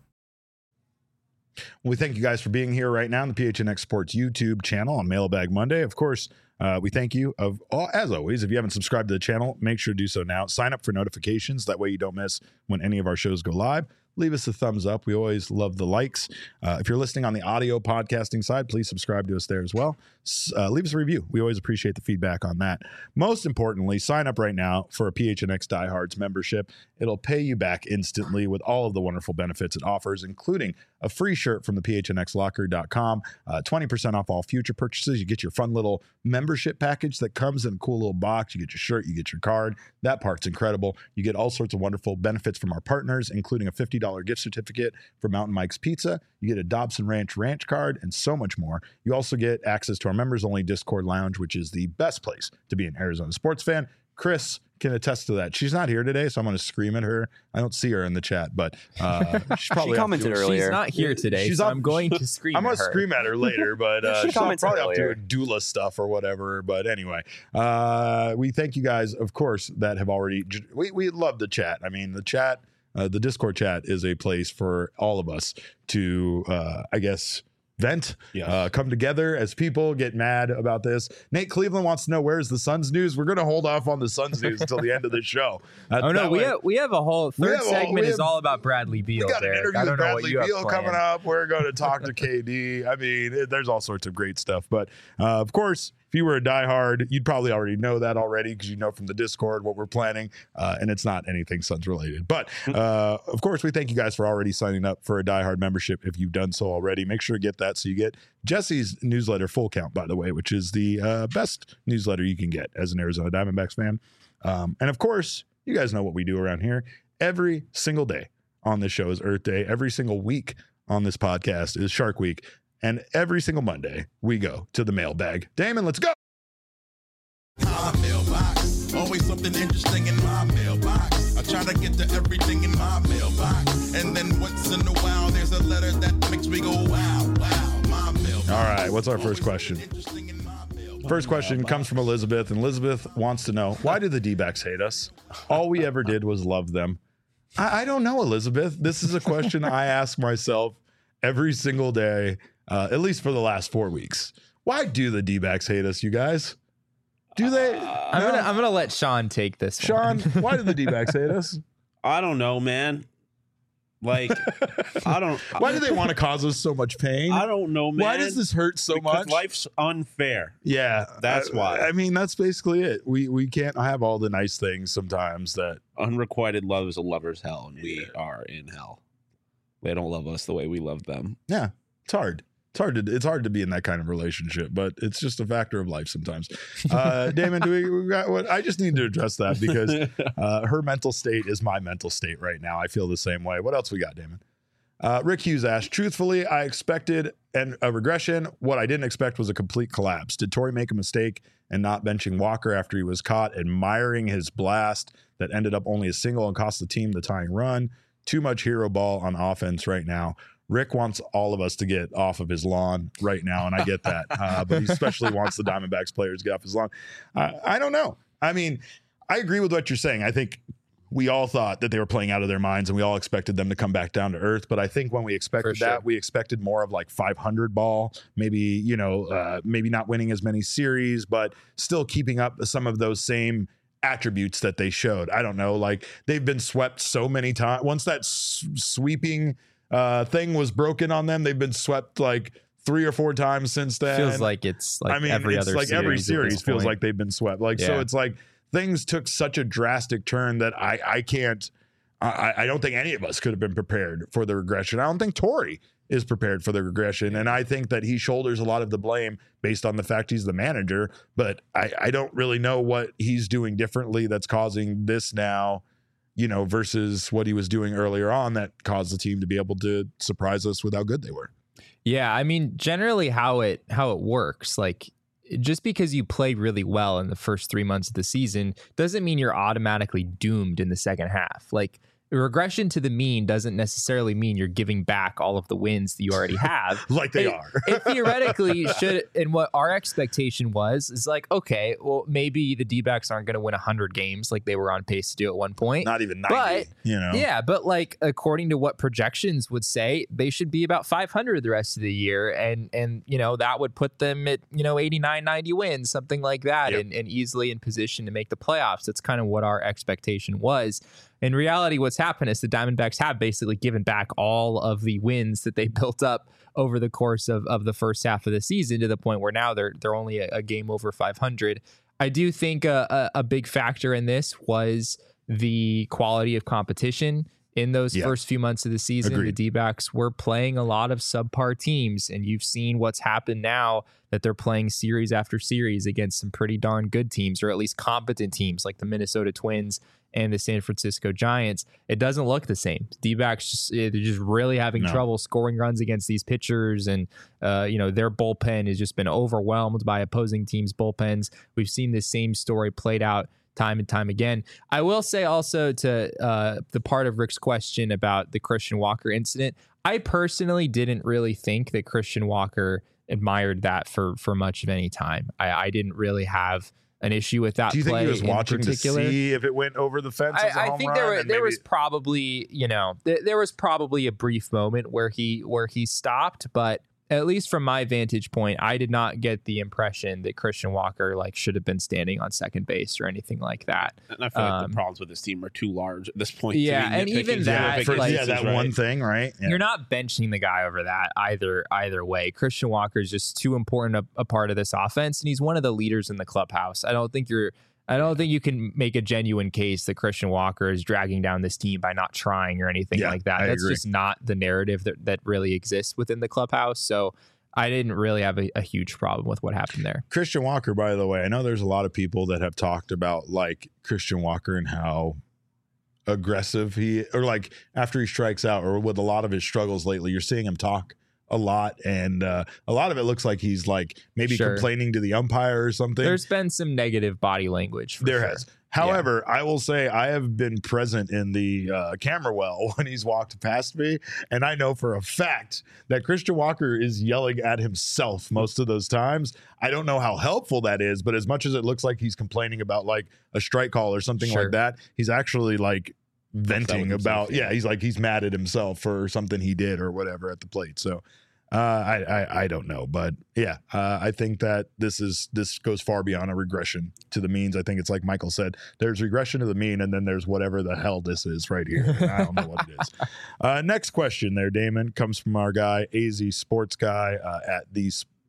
Speaker 1: We thank you guys for being here right now on the P H N X Sports YouTube channel on Mailbag Monday. Of course, uh, we thank you. Of all, as always, if you haven't subscribed to the channel, make sure to do so now. Sign up for notifications. That way you don't miss when any of our shows go live. Leave us a thumbs up. We always love the likes. Uh, if you're listening on the audio podcasting side, please subscribe to us there as well. S- uh, leave us a review. We always appreciate the feedback on that. Most importantly, sign up right now for a P H N X Diehards membership. It'll pay you back instantly with all of the wonderful benefits it offers, including a free shirt from the P H N X locker dot com, uh, twenty percent off all future purchases. You get your fun little membership package that comes in a cool little box. You get your shirt, you get your card. That part's incredible. You get all sorts of wonderful benefits from our partners, including a fifty dollars gift certificate for Mountain Mike's Pizza. You get a Dobson Ranch Ranch card and so much more. You also get access to our members-only Discord lounge, which is the best place to be an Arizona sports fan. Chris can attest to that. She's not here today, so I'm going to scream at her. I don't see her in the chat, but uh, she's probably
Speaker 4: She commented
Speaker 1: off doing-
Speaker 4: earlier.
Speaker 3: She's not here today,
Speaker 1: She's
Speaker 3: so
Speaker 1: off-
Speaker 3: I'm going to scream
Speaker 1: I'm
Speaker 3: at
Speaker 1: gonna
Speaker 3: her.
Speaker 1: scream at her later, but uh,
Speaker 4: She
Speaker 1: she's off-
Speaker 4: commented
Speaker 1: probably off
Speaker 4: earlier.
Speaker 1: doing doula stuff or whatever. But anyway, uh, we thank you guys, of course, that have already. We we love the chat. I mean, the chat, uh, the Discord chat is a place for all of us to, uh, I guess, vent,
Speaker 2: Yes.
Speaker 1: uh, come together as people, get mad about this. Nate Cleveland wants to know where's the Suns news. We're going to hold off on the Suns news until the end of the show. Uh,
Speaker 3: Oh no,
Speaker 1: that
Speaker 3: we
Speaker 1: way-
Speaker 3: have we have a whole
Speaker 1: We
Speaker 3: third
Speaker 1: have a whole-
Speaker 3: segment
Speaker 1: we
Speaker 3: is
Speaker 1: have-
Speaker 3: all about Bradley Beal.
Speaker 1: we got an
Speaker 3: Derek.
Speaker 1: interview
Speaker 3: I
Speaker 1: with
Speaker 3: don't know what
Speaker 1: Bradley
Speaker 3: you have
Speaker 1: Beal coming
Speaker 3: planned.
Speaker 1: up. We're going to talk to K D. I mean, it, there's all sorts of great stuff. But uh, of course, if you were a diehard, you'd probably already know that already because you know from the Discord what we're planning, uh, and it's not anything Suns related. But uh, of course, we thank you guys for already signing up for a diehard membership. If you've done so already, make sure to get that so you get Jesse's newsletter full count, by the way, which is the uh, best newsletter you can get as an Arizona Diamondbacks fan. Um, and of course, you guys know what we do around here. Every single day on this show is Earth Day. Every single week on this podcast is Shark Week. And every single Monday, we go to the mailbag. Damon, let's go.
Speaker 6: My mailbox, always something interesting in my mailbox. I try to get to everything in my mailbox, and then once in a while, there's a letter that makes me go wow, wow. My mailbox.
Speaker 1: All right, what's our first
Speaker 6: Always
Speaker 1: question?
Speaker 6: something interesting in my mailbox.
Speaker 1: First question comes from Elizabeth, and Elizabeth wants to know, why do the D-backs hate us? All we ever did was love them. I, I don't know, Elizabeth. This is a question I ask myself every single day, uh, at least for the last four weeks. Why do the D-backs hate us, you guys? Do they?
Speaker 3: I'm
Speaker 1: No?
Speaker 3: gonna I'm gonna let Sean take this.
Speaker 1: Sean,
Speaker 3: one.
Speaker 1: why do the D-backs hate us?
Speaker 2: I don't know, man. Like, I don't.
Speaker 1: Why do they want to cause us so much pain?
Speaker 2: I don't know, man.
Speaker 1: Why does this hurt so
Speaker 2: Because
Speaker 1: much?
Speaker 2: life's unfair.
Speaker 1: Yeah,
Speaker 2: That's
Speaker 1: I-
Speaker 2: why.
Speaker 1: I mean, that's basically it. We we can't have all the nice things sometimes. That
Speaker 2: Unrequited love is a lover's hell, and we are in hell. They don't love us the way we love them.
Speaker 1: yeah, it's hard. It's hard to it's hard to be in that kind of relationship, but it's just a factor of life sometimes. Uh, Damon, do we, we got what? I just need to address that because uh, her mental state is my mental state right now. I feel the same way. What else we got, Damon? Uh, Rick Hughes asked, truthfully, I expected an, a regression. What I didn't expect was a complete collapse. Did Torrey make a mistake and not benching Walker after he was caught admiring his blast that ended up only a single and cost the team the tying run? Too much hero ball on offense right now. Rick wants all of us to get off of his lawn right now, and I get that. Uh, but he especially wants the Diamondbacks players to get off his lawn. Uh, I don't know. I mean, I agree with what you're saying. I think we all thought that they were playing out of their minds, and we all expected them to come back down to earth. But I think when we expected
Speaker 3: sure.
Speaker 1: that, we expected more of like five hundred ball, maybe, you know, uh, maybe not winning as many series, but still keeping up some of those same attributes that they showed. I don't know. Like they've been swept so many times. Once that s- sweeping uh, thing was broken on them, they've been swept like three or four times since then.
Speaker 3: Feels like it's like
Speaker 1: I mean,
Speaker 3: every
Speaker 1: it's
Speaker 3: other
Speaker 1: like
Speaker 3: series
Speaker 1: every
Speaker 3: at this
Speaker 1: series feels
Speaker 3: point.
Speaker 1: like they've been swept. Like, so
Speaker 3: Yeah.
Speaker 1: it's like things took such a drastic turn that I, I can't, I, I don't think any of us could have been prepared for the regression. I don't think Torrey is prepared for the regression. And I think that he shoulders a lot of the blame based on the fact he's the manager, but I, I don't really know what he's doing differently that's causing this now, you know, versus what he was doing earlier on that caused the team to be able to surprise us with how good they were.
Speaker 3: Yeah, I mean, generally how it how it works, like just because you play really well in the first three months of the season doesn't mean you're automatically doomed in the second half. Like regression to the mean doesn't necessarily mean you're giving back all of the wins that you already have.
Speaker 1: Like they
Speaker 3: it,
Speaker 1: are.
Speaker 3: It theoretically should, and what our expectation was is like, okay, well, maybe the D-backs aren't going to win one hundred games like they were on pace to do at one point.
Speaker 1: Not even ninety,
Speaker 3: But,
Speaker 1: you know.
Speaker 3: Yeah, but like according to what projections would say, they should be about five hundred the rest of the year, and and you know that would put them at you know eighty-nine, ninety wins, something like that,
Speaker 1: Yep.
Speaker 3: and, and easily in position to make the playoffs. That's kind of what our expectation was. In reality, what's happened is the Diamondbacks have basically given back all of the wins that they built up over the course of, of the first half of the season to the point where now they're they're only a, a game over five hundred. I do think a, a, a big factor in this was the quality of competition in those
Speaker 1: Yeah.
Speaker 3: first few months of the season.
Speaker 1: Agreed.
Speaker 3: The D-backs were playing a lot of subpar teams, and you've seen what's happened now that they're playing series after series against some pretty darn good teams, or at least competent teams like the Minnesota Twins and the San Francisco Giants. It doesn't look the same. D-backs just they're just really having
Speaker 1: No.
Speaker 3: trouble scoring runs against these pitchers, and uh, you know their bullpen has just been overwhelmed by opposing teams' bullpens. We've seen this same story played out time and time again. I will say also to uh, the part of Rick's question about the Christian Walker incident, I personally didn't really think that Christian Walker admired that for for much of any time. I, I didn't really have an issue with that.
Speaker 1: Do you think
Speaker 3: play
Speaker 1: he was
Speaker 3: in
Speaker 1: watching to
Speaker 3: particular.
Speaker 1: see if it went over the fence? as a
Speaker 3: I, I
Speaker 1: home
Speaker 3: think
Speaker 1: run
Speaker 3: there were,
Speaker 1: and
Speaker 3: there
Speaker 1: maybe-
Speaker 3: was probably you know th- there was probably a brief moment where he where he stopped, but at least from my vantage point, I did not get the impression that Christian Walker like should have been standing on second base or anything like that.
Speaker 2: And I feel like
Speaker 3: Um,
Speaker 2: the problems with this team are too large at this point.
Speaker 3: Yeah,
Speaker 2: to be
Speaker 3: and even
Speaker 2: nitpicking
Speaker 3: that,
Speaker 2: nitpicking
Speaker 1: for,
Speaker 3: like-
Speaker 1: yeah, that
Speaker 2: pieces,
Speaker 1: one
Speaker 2: right?
Speaker 1: thing, right? Yeah.
Speaker 3: You're not benching the guy over that either either way. Christian Walker is just too important a, a part of this offense, and he's one of the leaders in the clubhouse. I don't think you're I don't think you can make a genuine case that Christian Walker is dragging down this team by not trying or anything
Speaker 1: Yeah,
Speaker 3: like that.
Speaker 1: I
Speaker 3: That's
Speaker 1: agree.
Speaker 3: just not the narrative that, that really exists within the clubhouse. So I didn't really have a, a huge problem with what happened there.
Speaker 1: Christian Walker, by the way, I know there's a lot of people that have talked about like Christian Walker and how aggressive he, or like after he strikes out, or with a lot of his struggles lately, you're seeing him talk a lot, and uh, a lot of it looks like he's like maybe
Speaker 3: Sure.
Speaker 1: complaining to the umpire or something.
Speaker 3: There's been some negative body language. For
Speaker 1: There
Speaker 3: sure.
Speaker 1: has. However, I will say I have been present in the uh, camera well when he's walked past me, and I know for a fact that Christian Walker is yelling at himself most of those times. I don't know how helpful that is, but as much as it looks like he's complaining about like a strike call or something
Speaker 3: Sure.
Speaker 1: like that, he's actually like venting
Speaker 2: with
Speaker 1: about,
Speaker 2: himself,
Speaker 1: yeah,
Speaker 2: yeah.
Speaker 1: he's like, he's mad at himself for something he did or whatever at the plate. So Uh, I, I I don't know, but yeah, uh, I think that this is this goes far beyond a regression to the means. I think it's like Michael said, there's regression to the mean, and then there's whatever the hell this is right here. I don't know what it is. Uh, next question there, Damon, comes from our guy A Z Sports Guy uh, at the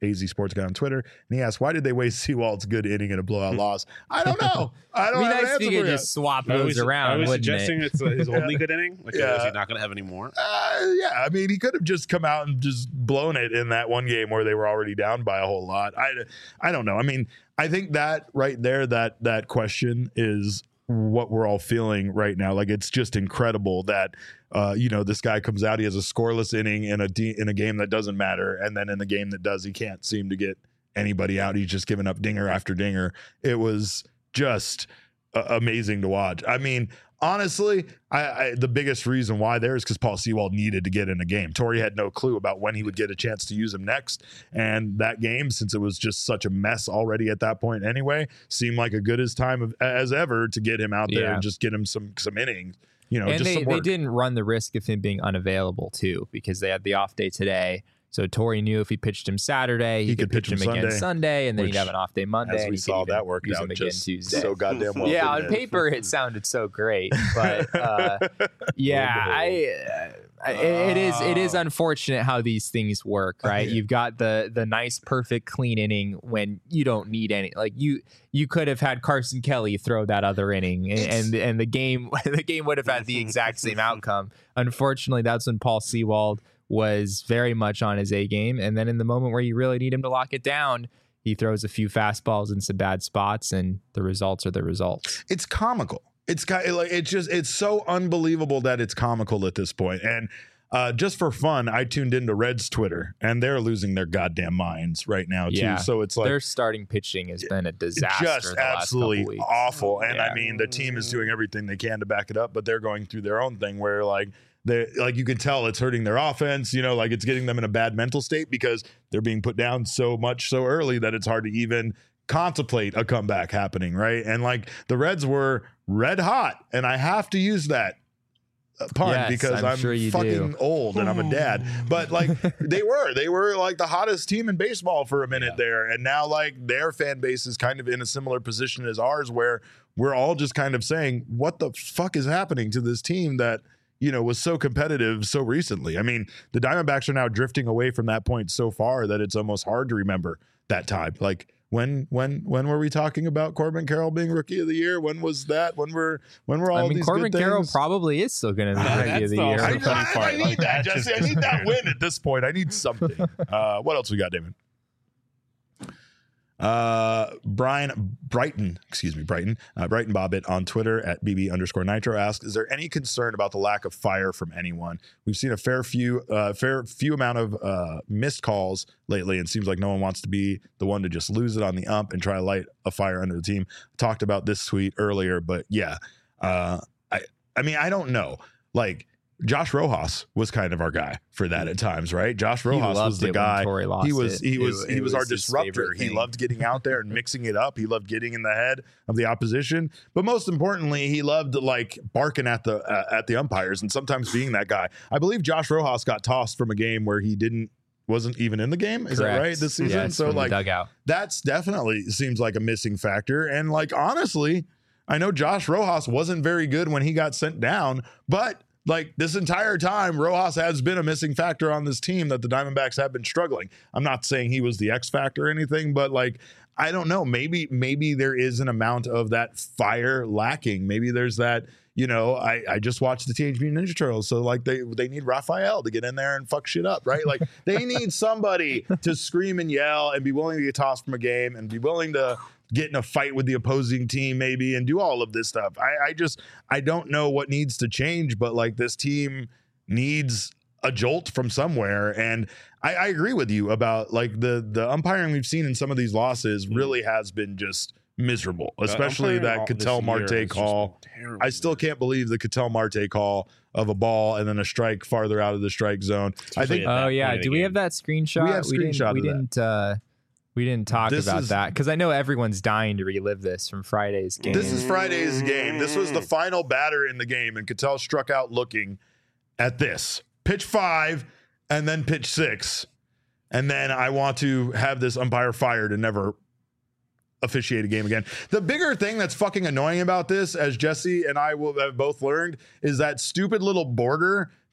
Speaker 1: A Z Sports Guy on Twitter, and he asked, "Why did they waste Sewald's good inning in a blowout loss?" I don't know. I don't
Speaker 3: I mean,
Speaker 1: have an
Speaker 3: I
Speaker 1: answer
Speaker 3: think
Speaker 1: for
Speaker 3: you
Speaker 1: you.
Speaker 3: just swap
Speaker 2: Are
Speaker 3: those
Speaker 2: we,
Speaker 3: around.
Speaker 2: are we
Speaker 3: wouldn't
Speaker 2: suggesting
Speaker 3: it?
Speaker 2: it's uh, his only good inning? Like,
Speaker 1: Yeah.
Speaker 2: is he not going to have any more?
Speaker 1: Uh, yeah, I mean, he could have just come out and just blown it in that one game where they were already down by a whole lot. I, I don't know. I mean, I think that right there, that that question is what we're all feeling right now. Like, it's just incredible that uh, you know, this guy comes out, he has a scoreless inning in a de- in a game that doesn't matter, and then in the game that does, he can't seem to get anybody out. He's just giving up dinger after dinger. It was just uh, amazing to watch. I mean, honestly, I, I the biggest reason why there is because Paul Sewald needed to get in a game. Torrey had no clue about when he would get a chance to use him next, and that game, since it was just such a mess already at that point anyway, seemed like a good as time of, as ever to get him out there
Speaker 3: Yeah.
Speaker 1: and just get him some some innings. You know,
Speaker 3: And
Speaker 1: just
Speaker 3: they,
Speaker 1: some
Speaker 3: they
Speaker 1: work.
Speaker 3: didn't run the risk of him being unavailable too, because they had the off day today. So Torrey knew if he pitched him Saturday, he,
Speaker 1: He
Speaker 3: could,
Speaker 1: could
Speaker 3: pitch
Speaker 1: pitch
Speaker 3: him
Speaker 1: him
Speaker 3: again
Speaker 1: Sunday,
Speaker 3: Sunday, and then
Speaker 1: which,
Speaker 3: he'd have an off day Monday.
Speaker 1: as
Speaker 3: and
Speaker 1: we
Speaker 3: he could
Speaker 1: saw,
Speaker 3: even
Speaker 1: that worked
Speaker 3: use
Speaker 1: out
Speaker 3: him again
Speaker 1: just
Speaker 3: Tuesday.
Speaker 1: so goddamn well.
Speaker 3: yeah, on
Speaker 1: didn't it?
Speaker 3: paper it sounded so great, but uh, yeah, I, I it is it is unfortunate how these things work, right? You've got the the nice, perfect, clean inning when you don't need any. Like you you could have had Carson Kelly throw that other inning, and and, and the game the game would have had the exact same outcome. Unfortunately, that's when Paul Sewald was very much on his A game, and then in the moment where you really need him to lock it down, he throws a few fastballs in some bad spots, and the results are the results.
Speaker 1: It's comical. It's kind of like it's just it's so unbelievable that it's comical at this point. And uh, just for fun, I tuned into Reds Twitter, and they're losing their goddamn minds right now too.
Speaker 3: Yeah.
Speaker 1: So it's like
Speaker 3: Their starting pitching has been a disaster.
Speaker 1: just
Speaker 3: the last
Speaker 1: absolutely
Speaker 3: couple weeks.
Speaker 1: awful. And I
Speaker 3: Yeah.
Speaker 1: mean, the team is doing everything they can to back it up, but they're going through their own thing where like they like you can tell it's hurting their offense. You know, like it's getting them in a bad mental state because they're being put down so much so early that it's hard to even contemplate a comeback happening, right? And like the Reds were red hot, and I have to use that pun
Speaker 3: Yes,
Speaker 1: because
Speaker 3: I'm
Speaker 1: I'm,
Speaker 3: sure you
Speaker 1: fucking
Speaker 3: do.
Speaker 1: old and I'm a dad. But like they were, they were like the hottest team in baseball for a minute
Speaker 2: Yeah.
Speaker 1: there, and now like their fan base is kind of in a similar position as ours, where we're all just kind of saying, "What the fuck is happening to this team that?" you know, was so competitive so recently. I mean, the Diamondbacks are now drifting away from that point so far that it's almost hard to remember that time. Like when, when, when were we talking about Corbin Carroll being Rookie of the Year? When was that? When were, when were all
Speaker 3: I mean,
Speaker 1: these
Speaker 3: Corbin
Speaker 1: good
Speaker 3: Carroll
Speaker 1: things?
Speaker 3: probably is still going to be
Speaker 2: Uh,
Speaker 3: Rookie
Speaker 2: that's
Speaker 3: of the
Speaker 2: the
Speaker 3: Year.
Speaker 2: also
Speaker 1: I,
Speaker 2: funny
Speaker 1: I,
Speaker 2: part.
Speaker 1: I need
Speaker 2: Like,
Speaker 1: that,
Speaker 2: that's
Speaker 1: Jesse. I
Speaker 2: just
Speaker 1: need that
Speaker 2: weird.
Speaker 1: win at this point. I need something. Uh, what else we got, David? Uh, Brian Brighton, excuse me, Brighton, uh, Brighton Bobbitt on Twitter at B B underscore Nitro asks, is there any concern about the lack of fire from anyone? We've seen a fair few, uh, fair few amount of uh, missed calls lately, and seems like no one wants to be the one to just lose it on the ump and try to light a fire under the team. Talked about this tweet earlier, but yeah, uh, I, I mean, I don't know, like. Josh Rojas was kind of our guy for that at times, right? Josh Rojas
Speaker 3: loved
Speaker 1: was the
Speaker 3: it when
Speaker 1: guy.
Speaker 3: Torrey lost
Speaker 1: He was
Speaker 3: it.
Speaker 1: he
Speaker 3: It
Speaker 1: was
Speaker 3: wa-
Speaker 1: he
Speaker 3: it
Speaker 1: was our
Speaker 3: was his
Speaker 1: disruptor.
Speaker 3: favorite
Speaker 1: He
Speaker 3: thing.
Speaker 1: loved getting out there and mixing it up. He loved getting in the head of the opposition, but most importantly, he loved like barking at the uh, at the umpires and sometimes being that guy. I believe Josh Rojas got tossed from a game where he didn't wasn't even in the game. Is
Speaker 3: Correct.
Speaker 1: that right this season?
Speaker 3: Yes,
Speaker 1: so
Speaker 3: from the
Speaker 1: like
Speaker 3: dugout.
Speaker 1: that's definitely seems like a missing factor. And like honestly, I know Josh Rojas wasn't very good when he got sent down, but like this entire time, Rojas has been a missing factor on this team that the Diamondbacks have been struggling. I'm not saying he was the X factor or anything, but like, I don't know. Maybe, maybe there is an amount of that fire lacking. Maybe there's that, you know, I, I just watched the Teenage Mutant Ninja Turtles. So like they, they need Raphael to get in there and fuck shit up, right? Like they need somebody to scream and yell and be willing to get tossed from a game and be willing to get in a fight with the opposing team maybe and do all of this stuff. I, I just, I don't know what needs to change, but like this team needs a jolt from somewhere. And I, I agree with you about like the, the umpiring we've seen in some of these losses really has been just miserable, especially
Speaker 2: umpiring
Speaker 1: that
Speaker 2: all- this
Speaker 1: Cattell
Speaker 2: year
Speaker 1: Marte
Speaker 2: has just
Speaker 1: call.
Speaker 2: been terrible,
Speaker 1: I still
Speaker 2: man.
Speaker 1: can't believe the Cattell Marte call of a ball and then a strike farther out of the strike zone. I
Speaker 2: Especially
Speaker 1: think
Speaker 2: at that
Speaker 3: Oh yeah,
Speaker 2: point of
Speaker 3: do
Speaker 2: the
Speaker 3: we
Speaker 2: game.
Speaker 3: have that screenshot?
Speaker 1: We have
Speaker 3: we
Speaker 1: screenshot
Speaker 3: didn't. We
Speaker 1: of that.
Speaker 3: didn't. Uh, we didn't talk
Speaker 1: This
Speaker 3: about
Speaker 1: is-
Speaker 3: that because I know everyone's dying to relive this from Friday's game.
Speaker 1: This is Friday's game. This was the final batter in the game, and Cattell struck out looking at this pitch five and then pitch six. And then I want to have this umpire fired and never officiate a game again. The bigger thing that's fucking annoying about this, as Jesse and I will have both learned, is that stupid little border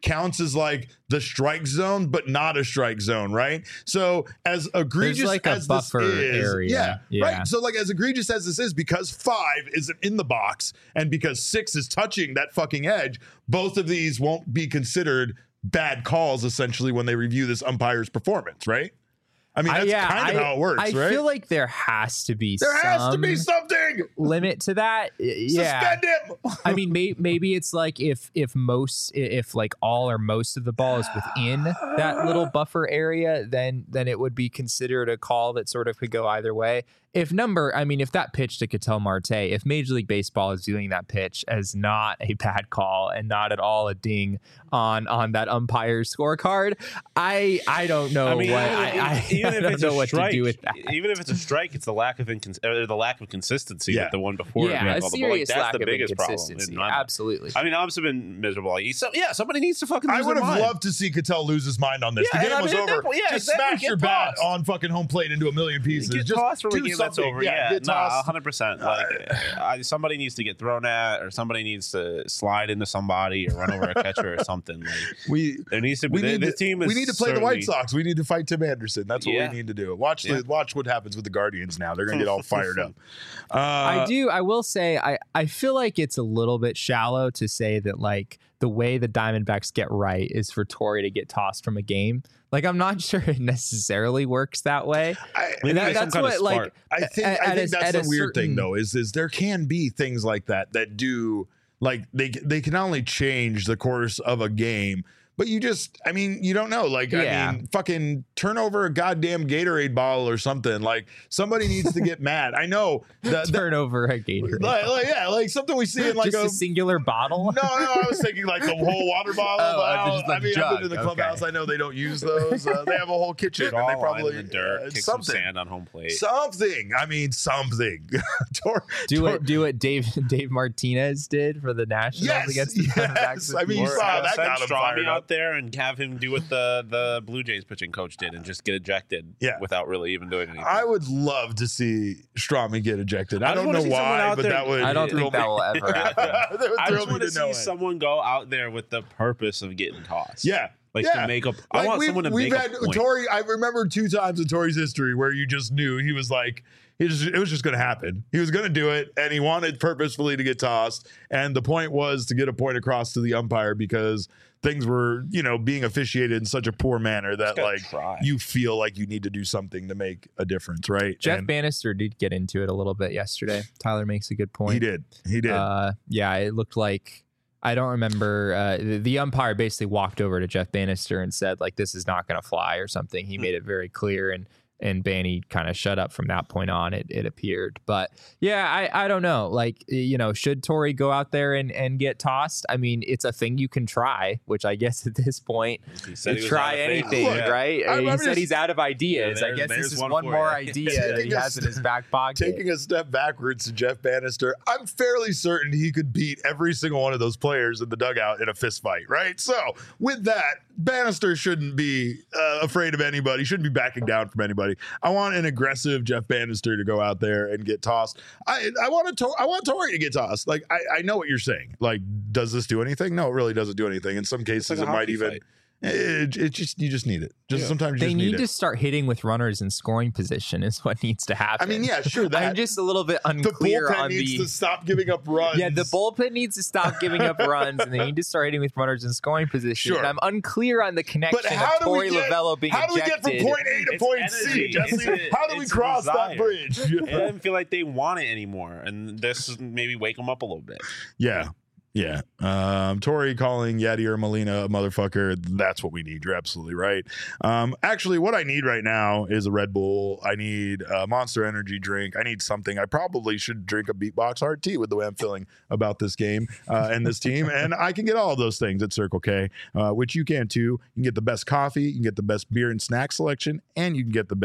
Speaker 1: counts as like the strike zone, but not a strike zone, right? So as egregious
Speaker 3: like a
Speaker 1: as
Speaker 3: buffer
Speaker 1: this is,
Speaker 3: area.
Speaker 1: yeah,
Speaker 3: Yeah.
Speaker 1: right. So like as egregious as this is, because five isn't in the box and because six is touching that fucking edge, both of these won't be considered bad calls essentially when they review this umpire's performance, right? I mean, that's
Speaker 3: I, yeah,
Speaker 1: kind of
Speaker 3: I,
Speaker 1: how it works,
Speaker 3: I
Speaker 1: right?
Speaker 3: feel like there has to be
Speaker 1: there has to
Speaker 3: some
Speaker 1: be something.
Speaker 3: limit to that. Yeah.
Speaker 1: Suspend him.
Speaker 3: I mean, may, maybe it's like if if most if like all or most of the ball is within that little buffer area, then then it would be considered a call that sort of could go either way. If number, I mean, if that pitch to Ketel Marte, if Major League Baseball is viewing that pitch as not a bad call and not at all a ding on on that umpire's scorecard, I I don't know
Speaker 2: I mean,
Speaker 3: what
Speaker 2: even,
Speaker 3: I, I,
Speaker 2: even
Speaker 3: I
Speaker 2: if
Speaker 3: don't
Speaker 2: it's
Speaker 3: know
Speaker 2: a
Speaker 3: what
Speaker 2: strike,
Speaker 3: to do with that.
Speaker 2: even if it's a strike, it's the lack of incons- or the lack of consistency
Speaker 1: Yeah.
Speaker 2: that the one before.
Speaker 3: Yeah,
Speaker 2: had
Speaker 3: a
Speaker 2: all the ball. Like,
Speaker 3: serious
Speaker 2: that's
Speaker 3: lack
Speaker 2: the
Speaker 3: of
Speaker 2: biggest problem.
Speaker 3: inconsistency.
Speaker 2: in my mind.
Speaker 3: Absolutely.
Speaker 2: I mean, I've been miserable. So, yeah, somebody needs to fucking. Lose
Speaker 1: I would
Speaker 2: their
Speaker 1: have
Speaker 2: mind.
Speaker 1: loved to see Cattell lose his mind on this.
Speaker 2: Yeah,
Speaker 1: the
Speaker 2: and
Speaker 1: game
Speaker 2: I
Speaker 1: was
Speaker 2: mean, at that
Speaker 1: over.
Speaker 2: point- yeah,
Speaker 1: Just
Speaker 2: exactly,
Speaker 1: smash
Speaker 2: get
Speaker 1: your bat
Speaker 2: tossed.
Speaker 1: on fucking home plate into a million pieces.
Speaker 2: Get
Speaker 1: Just
Speaker 2: tossed from a
Speaker 1: do
Speaker 2: game that's
Speaker 1: something.
Speaker 2: over.
Speaker 1: Yeah,
Speaker 2: Yeah,
Speaker 1: get
Speaker 2: no,
Speaker 1: tossed.
Speaker 2: one hundred percent. Like, I, somebody needs to get thrown at, or somebody needs to slide into somebody, or run over a catcher, or something. Like,
Speaker 1: We
Speaker 2: there needs to be.
Speaker 1: we need
Speaker 2: this
Speaker 1: to,
Speaker 2: team is
Speaker 1: we need to play the White
Speaker 2: certainly-
Speaker 1: Sox. We need to fight Tim Anderson. That's what
Speaker 2: Yeah.
Speaker 1: we need to do. Watch
Speaker 2: Yeah.
Speaker 1: the watch what happens with the Guardians now. They're gonna get all fired up. Uh,
Speaker 3: I do. I will say, I, I feel like it's a little bit shallow to say that like the way the Diamondbacks get right is for Torrey to get tossed from a game. Like, I'm not sure it necessarily works that way.
Speaker 1: I,
Speaker 2: Maybe
Speaker 3: That-
Speaker 2: there's some
Speaker 3: that's
Speaker 2: kind of
Speaker 3: what like
Speaker 2: spark.
Speaker 1: I think
Speaker 3: at-
Speaker 1: I
Speaker 3: at
Speaker 1: think
Speaker 3: a-
Speaker 1: that's
Speaker 3: at
Speaker 1: the
Speaker 3: a
Speaker 1: weird thing
Speaker 3: certain-
Speaker 1: though is is there can be things like that that do like they they can not only change the course of a game, but you just I mean you don't know like
Speaker 3: Yeah.
Speaker 1: I mean fucking turn over a goddamn Gatorade bottle or something, like somebody needs to get mad. I know the, the,
Speaker 3: turn over a Gatorade.
Speaker 1: like, like, yeah like something we see in like
Speaker 3: Just
Speaker 1: a,
Speaker 3: a singular bottle.
Speaker 1: no, no, I was thinking like the whole water bottle.
Speaker 3: Oh,
Speaker 1: but I,
Speaker 3: just
Speaker 1: don't-
Speaker 3: the
Speaker 1: I mean, I've
Speaker 3: jug.
Speaker 1: been to the
Speaker 3: Okay.
Speaker 1: clubhouse. I know they don't use those. Uh, they have a whole kitchen, and
Speaker 2: Draw
Speaker 1: they
Speaker 2: a line
Speaker 1: probably
Speaker 2: in the dirt,
Speaker 1: uh,
Speaker 2: kick some
Speaker 1: something.
Speaker 2: sand on home plate.
Speaker 1: Something. I mean, something. Tor-
Speaker 3: Do
Speaker 1: Tor-
Speaker 3: what do what Dave Dave Martinez did for the Nationals
Speaker 1: Yes,
Speaker 3: against the
Speaker 1: yes.
Speaker 3: Diamondbacks.
Speaker 1: I mean, you
Speaker 2: Or,
Speaker 1: saw
Speaker 2: uh,
Speaker 1: that
Speaker 2: send
Speaker 1: got him
Speaker 2: Strami
Speaker 1: fired
Speaker 2: out
Speaker 1: up.
Speaker 2: there and have him do what the the Blue Jays pitching coach did and just get ejected.
Speaker 1: Yeah.
Speaker 2: without really even doing anything.
Speaker 1: I would love to see Strami get ejected. I,
Speaker 2: I just
Speaker 1: don't
Speaker 2: wanna
Speaker 1: know
Speaker 2: see someone
Speaker 1: why,
Speaker 2: out
Speaker 1: but
Speaker 2: there-
Speaker 1: that would.
Speaker 3: I don't
Speaker 1: thrill
Speaker 3: think that
Speaker 1: me.
Speaker 3: will ever happen.
Speaker 1: that would
Speaker 2: I
Speaker 1: thrill
Speaker 2: just
Speaker 1: me
Speaker 2: want to
Speaker 1: to know
Speaker 2: see
Speaker 1: it.
Speaker 2: someone go out there with the purpose of getting tossed.
Speaker 1: Yeah.
Speaker 2: like
Speaker 1: yeah.
Speaker 2: to make up. I
Speaker 1: Like,
Speaker 2: want
Speaker 1: we've,
Speaker 2: someone to
Speaker 1: we've
Speaker 2: make
Speaker 1: had
Speaker 2: a point.
Speaker 1: Torrey. I remember two times in Torrey's history where you just knew he was like, he just, it was just going to happen. He was going to do it, and he wanted purposefully to get tossed. And the point was to get a point across to the umpire because things were, you know, being officiated in such a poor manner that
Speaker 2: gotta
Speaker 1: like
Speaker 2: try.
Speaker 1: you feel like you need to do something to make a difference, right?
Speaker 3: Jeff
Speaker 1: And
Speaker 3: Bannister did get into it a little bit yesterday. Tyler makes a good point.
Speaker 1: he did. He did.
Speaker 3: Uh, yeah, it looked like I don't remember. Uh, the, the umpire basically walked over to Jeff Bannister and said, like, this is not going to fly or something. He made it very clear, and and Banny kind of shut up from that point on, it, it appeared. But yeah, I, I don't know. Like, you know, should Torrey go out there and, and get tossed? I mean, it's a thing you can try, which I guess at this point,
Speaker 2: He said he was
Speaker 3: try
Speaker 2: out of phase.
Speaker 3: anything,
Speaker 1: Look,
Speaker 3: right?
Speaker 1: I'm-
Speaker 3: he
Speaker 1: I'm
Speaker 3: said
Speaker 1: just-
Speaker 3: he's out of ideas.
Speaker 2: Yeah,
Speaker 3: I guess
Speaker 2: there's-
Speaker 3: this is
Speaker 2: there's
Speaker 3: one,
Speaker 2: one for
Speaker 3: more
Speaker 2: you.
Speaker 3: idea that he
Speaker 1: Taking a
Speaker 3: has in his back pocket.
Speaker 1: Taking a step backwards to Jeff Bannister, I'm fairly certain he could beat every single one of those players in the dugout in a fist fight, right? So, with that, Bannister shouldn't be uh, afraid of anybody, shouldn't be backing down from anybody. I want an aggressive Jeff Bannister to go out there and get tossed. I I want to I want Torrey to get tossed. Like I, I know what you're saying. Like, does this do anything? No, it really doesn't do anything. In some cases,
Speaker 2: like a
Speaker 1: it might
Speaker 2: hockey
Speaker 1: even.
Speaker 2: fight.
Speaker 1: It, it just you just need it. Just
Speaker 2: Yeah.
Speaker 1: sometimes you
Speaker 3: They
Speaker 1: just
Speaker 3: need
Speaker 1: need
Speaker 3: to
Speaker 1: it.
Speaker 3: start hitting with runners in scoring position is what needs to happen.
Speaker 1: I mean, yeah, sure. That
Speaker 3: I'm just a little bit
Speaker 1: the
Speaker 3: unclear
Speaker 1: bullpen
Speaker 3: on
Speaker 1: needs
Speaker 3: the.
Speaker 1: to stop giving up runs.
Speaker 3: Yeah, the bullpen needs to stop giving up runs, and they need to start hitting with runners in scoring position.
Speaker 1: Sure.
Speaker 3: And I'm unclear on the connection
Speaker 1: But how
Speaker 3: of
Speaker 1: do we
Speaker 3: Torey
Speaker 1: get?
Speaker 3: Lavello being
Speaker 1: How do we
Speaker 3: ejected.
Speaker 1: get from point A to
Speaker 2: It's
Speaker 1: point C,
Speaker 2: energy.
Speaker 1: Jesse?
Speaker 2: It's a-
Speaker 1: How do we
Speaker 2: it's a
Speaker 1: cross that
Speaker 2: desire.
Speaker 1: bridge?
Speaker 2: It doesn't feel like they want it anymore, and this is maybe wake them up a little bit.
Speaker 1: Yeah. Yeah. Um, Torrey calling Yadier Molina a motherfucker. That's what we need. You're absolutely right. Um, actually, what I need right now is a Red Bull. I need a Monster Energy drink. I need something. I probably should drink a Beatbox hard tea with the way I'm feeling about this game uh, and this team. And I can get all of those things at Circle K, uh, which you can too. You can get the best coffee, you can get the best beer and snack selection, and you can get the best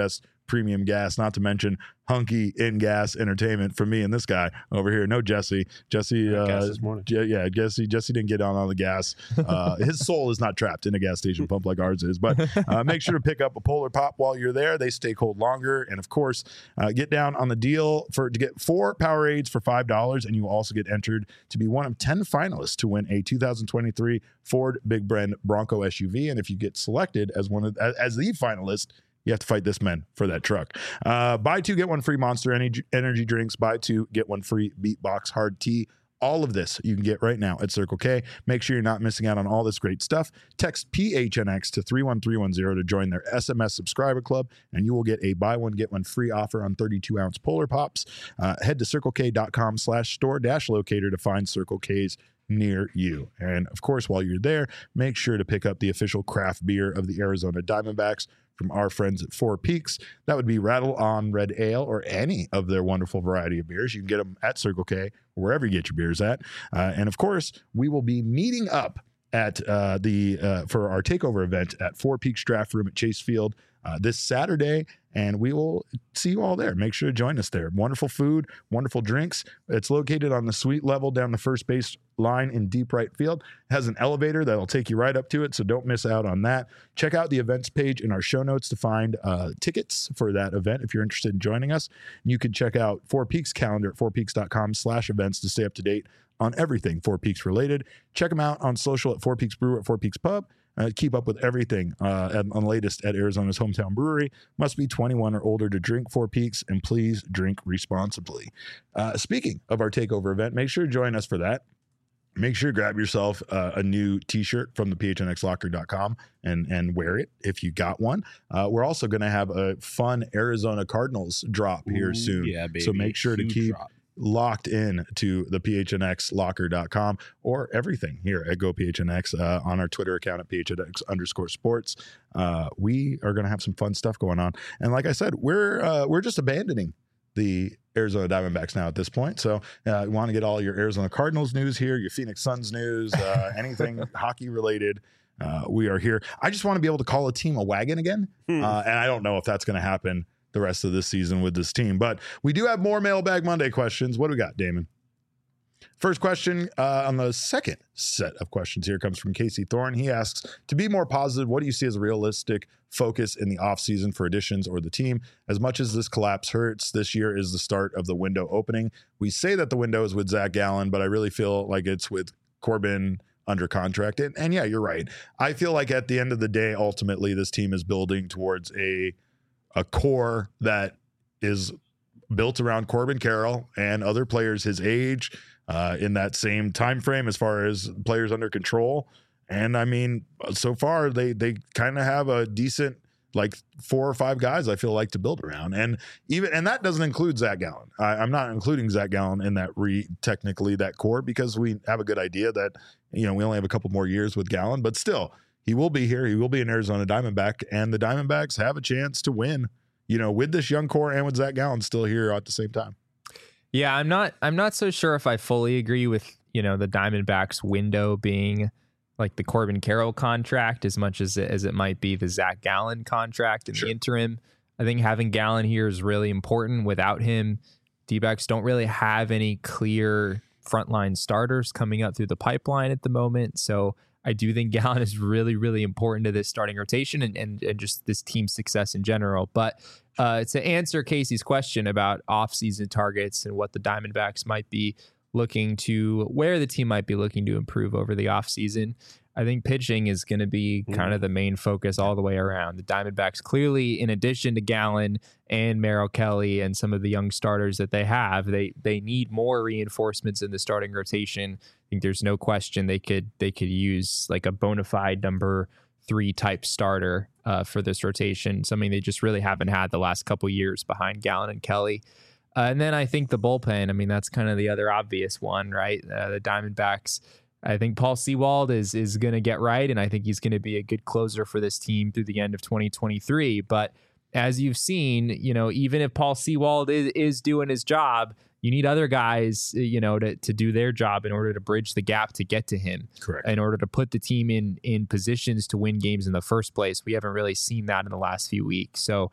Speaker 1: premium gas, not to mention hunky in gas entertainment for me and this guy over here. No Jesse. Jesse, uh,
Speaker 2: gas this morning.
Speaker 1: Je- yeah, Jesse. Jesse didn't get on on the gas. Uh, his soul is not trapped in a gas station pump like ours is. But uh, make sure to pick up a Polar Pop while you're there. They stay cold longer, and of course, uh, get down on the deal for to get four Powerades for five dollars, and you will also get entered to be one of ten finalists to win a two thousand twenty-three Ford Big Bend Bronco S U V. And if you get selected as one of as, as the finalist, you have to fight this man for that truck. Uh, buy two, get one free Monster Energy, energy drinks. Buy two, get one free Beatbox Hard Tea. All of this you can get right now at Circle K. Make sure you're not missing out on all this great stuff. Text P H N X to three one three one zero to join their S M S subscriber club, and you will get a buy one, get one free offer on thirty-two ounce Polar Pops. Uh, head to circlek.com slash store dash locator to find Circle K's near you. And of course, while you're there, make sure to pick up the official craft beer of the Arizona Diamondbacks from our friends at Four Peaks. That would be Rattle On Red Ale or any of their wonderful variety of beers. You can get them at Circle K or wherever you get your beers at. Uh, and of course, we will be meeting up at uh, the uh, for our takeover event at Four Peaks Draft Room at Chase Field uh, this Saturday, and we will see you all there. Make sure to join us there. Wonderful food, wonderful drinks. It's located on the suite level down the first base line in deep right field. It has an elevator that'll take you right up to it, so don't miss out on that. Check out the events page in our show notes to find uh, tickets for that event if you're interested in joining us. You can check out Four Peaks calendar at fourpeaks.com slash events to stay up to date on everything Four Peaks related. Check them out on social at Four Peaks Brew at Four Peaks Pub. Uh, keep up with everything uh, at, on the latest at Arizona's hometown brewery. Must be twenty-one or older to drink Four Peaks, and please drink responsibly. Uh, speaking of our takeover event, make sure to join us for that. Make sure to grab yourself uh, a new t-shirt from the P H N X locker dot com and, and wear it if you got one. Uh, we're also going to have a fun Arizona Cardinals drop here
Speaker 2: Ooh,
Speaker 1: soon.
Speaker 2: yeah, baby.
Speaker 1: So make sure
Speaker 2: Huge
Speaker 1: to keep
Speaker 2: drop.
Speaker 1: locked in to the P H N X locker dot com or everything here at Go P H N X uh, on our Twitter account at P H N X underscore sports. Uh, we are going to have some fun stuff going on. And like I said, we're uh, we're just abandoning the Arizona Diamondbacks now at this point. So uh, you want to get all your Arizona Cardinals news here, your Phoenix Suns news, uh, anything hockey related. Uh, we are here. I just want to be able to call a team a wagon again.
Speaker 2: Hmm.
Speaker 1: Uh, and I don't know if that's going to happen the rest of this season with this team, but we do have more Mailbag Monday questions. What do we got, Damon? First question uh, on the second set of questions here comes from Casey Thorne. He asks, to be more positive, what do you see as a realistic focus in the offseason for additions or the team? As much as this collapse hurts, this year is the start of the window opening. We say that the window is with Zach Gallen, but I really feel like it's with Corbin under contract. And, and yeah, you're right. I feel like at the end of the day, ultimately, this team is building towards a a core that is built around Corbin Carroll and other players his age uh, in that same time frame as far as players under control. And I mean, so far they they kind of have a decent like four or five guys I feel like to build around, and even and that doesn't include Zach Gallen. I, I'm not including Zach Gallen in that re technically that core because we have a good idea that you know we only have a couple more years with Gallen, but still. He will be here. He will be an Arizona Diamondback, and the Diamondbacks have a chance to win, you know, with this young core and with Zach Gallen still here at the same time.
Speaker 3: Yeah, I'm not I'm not so sure if I fully agree with, you know, the Diamondbacks window being like the Corbin Carroll contract as much as it, as it might be the Zach Gallen contract in
Speaker 1: Sure.
Speaker 3: the interim. I think having Gallen here is really important. Without him, D-backs don't really have any clear frontline starters coming up through the pipeline at the moment. So I do think Gallen is really, really important to this starting rotation and, and, and just this team's success in general. But uh, to answer Casey's question about offseason targets and what the Diamondbacks might be looking to, where the team might be looking to improve over the offseason, I think pitching is going to be kind of the main focus all the way around. The Diamondbacks clearly, in addition to Gallen and Merrill Kelly and some of the young starters that they have, they they need more reinforcements in the starting rotation. I think there's no question they could they could use like a bona fide number three type starter uh, for this rotation, something they just really haven't had the last couple years behind Gallen and Kelly. Uh, and then I think the bullpen, I mean, that's kind of the other obvious one, right? Uh, the Diamondbacks, I think Paul Sewald is is going to get right, and I think he's going to be a good closer for this team through the end of twenty twenty-three. But as you've seen, you know, even if Paul Sewald is, is doing his job, you need other guys, you know, to, to do their job in order to bridge the gap to get to him.
Speaker 1: Correct.
Speaker 3: In order to put the team in in positions to win games in the first place. We haven't really seen that in the last few weeks. So,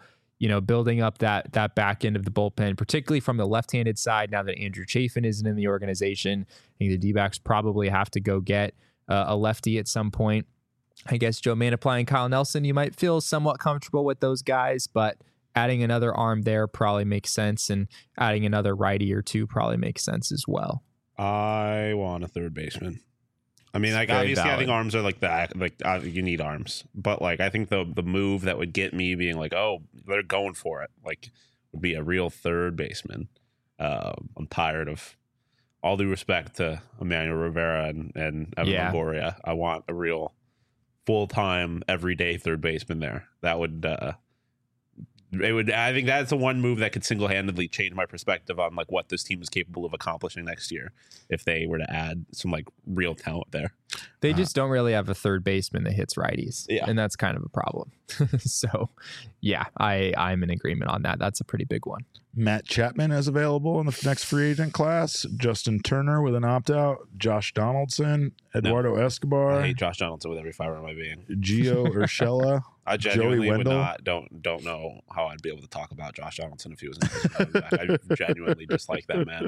Speaker 3: you know, building up that that back end of the bullpen, particularly from the left-handed side. Now that Andrew Chafin isn't in the organization, I think the D-backs probably have to go get uh, a lefty at some point. I guess Joe Manaply and Kyle Nelson, you might feel somewhat comfortable with those guys, but adding another arm there probably makes sense, and adding another righty or two probably makes sense as well.
Speaker 2: I want a third baseman. I mean, like,
Speaker 3: Very
Speaker 2: obviously,
Speaker 3: valid.
Speaker 2: I think arms are like that. Like, uh, you need arms, but like, I think the the move that would get me being like, oh, they're going for it, like, would be a real third baseman. Uh, I'm tired of, all due respect to Emmanuel Rivera and and Evan
Speaker 3: Yeah.
Speaker 2: Longoria. I want a real full time, everyday third baseman there. That would. Uh, It would. I think that's the one move that could single handedly change my perspective on like what this team is capable of accomplishing next year if they were to add some like real talent there.
Speaker 3: They
Speaker 1: Uh,
Speaker 3: just don't really have a third baseman that hits righties,
Speaker 2: Yeah.
Speaker 3: and that's kind of a problem. So, yeah, I I'm in agreement on that. That's a pretty big one.
Speaker 1: Matt Chapman is available in the next free agent class. Justin Turner with an opt out. Josh Donaldson, Eduardo Escobar,
Speaker 2: I hate Josh Donaldson with every fiber of my being.
Speaker 1: Gio Urshela.
Speaker 2: I genuinely would
Speaker 1: Wendell?
Speaker 2: not don't don't know how I'd be able to talk about Josh Donaldson if he was in the I genuinely dislike that man.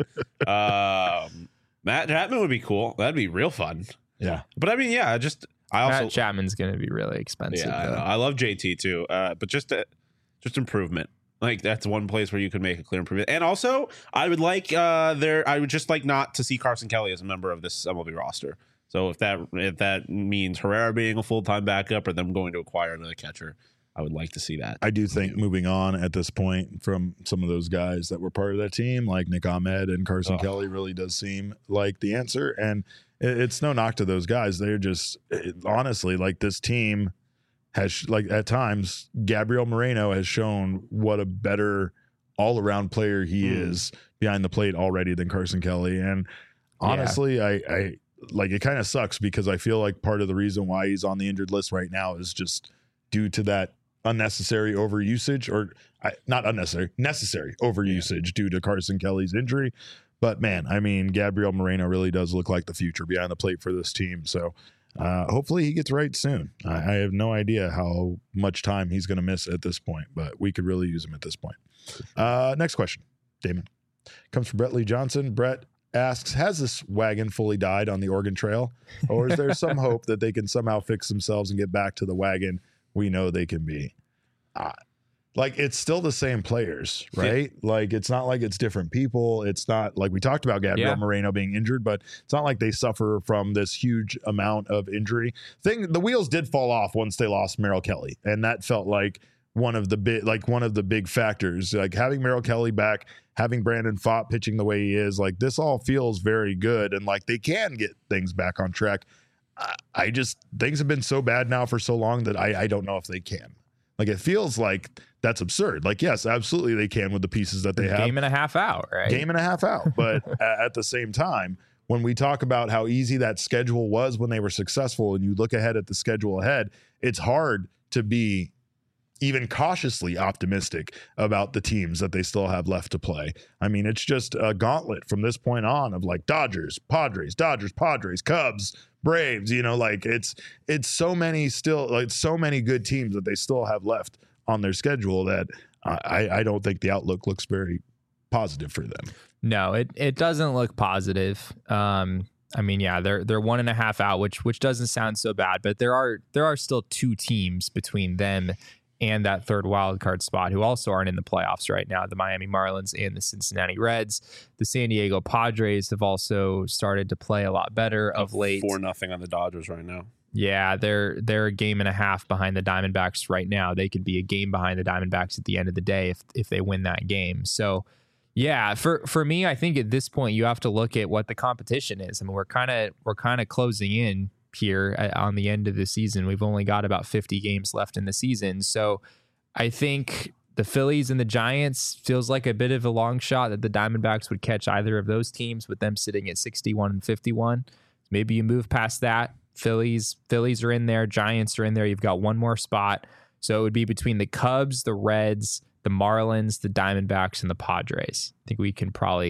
Speaker 2: Um, Matt Chapman would be cool. That'd be real fun.
Speaker 1: Yeah.
Speaker 2: But I mean, yeah, I just I also
Speaker 3: Matt Chapman's going to be really expensive.
Speaker 2: yeah, I, know.
Speaker 3: though.
Speaker 2: I love J T too. Uh, but just uh, just improvement. Like that's one place where you could make a clear improvement. And also, I would like uh there I would just like not to see Carson Kelly as a member of this M L B roster. So if that if that means Herrera being a full-time backup or them going to acquire another catcher, I would like to see that.
Speaker 1: I do think moving on at this point from some of those guys that were part of that team, like Nick Ahmed and Carson
Speaker 2: Oh.
Speaker 1: Kelly, really does seem like the answer. And it- it's no knock to those guys. They're just it- honestly like this team has like at times Gabriel Moreno has shown what a better all around player he
Speaker 2: Mm.
Speaker 1: is behind the plate already than Carson Kelly. And honestly, I, I like it kind of sucks because I feel like part of the reason why he's on the injured list right now is just due to that unnecessary overusage or I, not unnecessary, necessary overusage due to Carson Kelly's injury. But man, I mean, Gabriel Moreno really does look like the future behind the plate for this team. So uh, hopefully he gets right soon. I, I have no idea how much time he's going to miss at this point, but we could really use him at this point. Uh, next question, Damon. Comes from Brett Lee Johnson. Brett asks, has this wagon fully died on the Oregon Trail? Or is there some hope that they can somehow fix themselves and get back to the wagon we know they can be? Uh, like, it's still the same players, right? Like, it's not like it's different people. It's not like we talked about Gabriel
Speaker 3: Yeah.
Speaker 1: Moreno being injured, but it's not like they suffer from this huge amount of injury. Thing, the wheels did fall off once they lost Merrill Kelly, and that felt like one of the big, like one of the big factors. Like having Merrill Kelly back, having Brandon Pfaadt pitching the way he is, like this all feels very good, and like they can get things back on track. I, I just things have been so bad now for so long that I, I don't know if they can. Like it feels like that's absurd. Like yes, absolutely they can with the pieces that they have.
Speaker 3: Game and a half out, right?
Speaker 1: Game and a half out. But a- at the same time, when we talk about how easy that schedule was when they were successful, and you look ahead at the schedule ahead, it's hard to be even cautiously optimistic about the teams that they still have left to play. I mean, it's just a gauntlet from this point on of like Dodgers, Padres, Dodgers, Padres, Cubs, Braves, you know, like it's it's so many still like so many good teams that they still have left on their schedule that I, I don't think the outlook looks very positive for them.
Speaker 3: No, it it doesn't look positive. Um, I mean, yeah, they're they're one and a half out, which which doesn't sound so bad, but there are there are still two teams between them and that third wild card spot who also aren't in the playoffs right now, the Miami Marlins and the Cincinnati Reds. The San Diego Padres have also started to play a lot better of late.
Speaker 2: Four nothing on the Dodgers right now.
Speaker 3: Yeah, they're they're a game and a half behind the Diamondbacks right now. They could be a game behind the Diamondbacks at the end of the day if if they win that game. So yeah, for for me, I think at this point you have to look at what the competition is. I mean, we're kind of we're kind of closing in here at, on the end of the season. We've only got about fifty games left in the season. So I think the Phillies and the Giants feels like a bit of a long shot that the Diamondbacks would catch either of those teams with them sitting at sixty-one and fifty-one. Maybe you move past that. Phillies, Phillies are in there. Giants are in there. You've got one more spot. So it would be between the Cubs, the Reds, the Marlins, the Diamondbacks, and the Padres. I think we can probably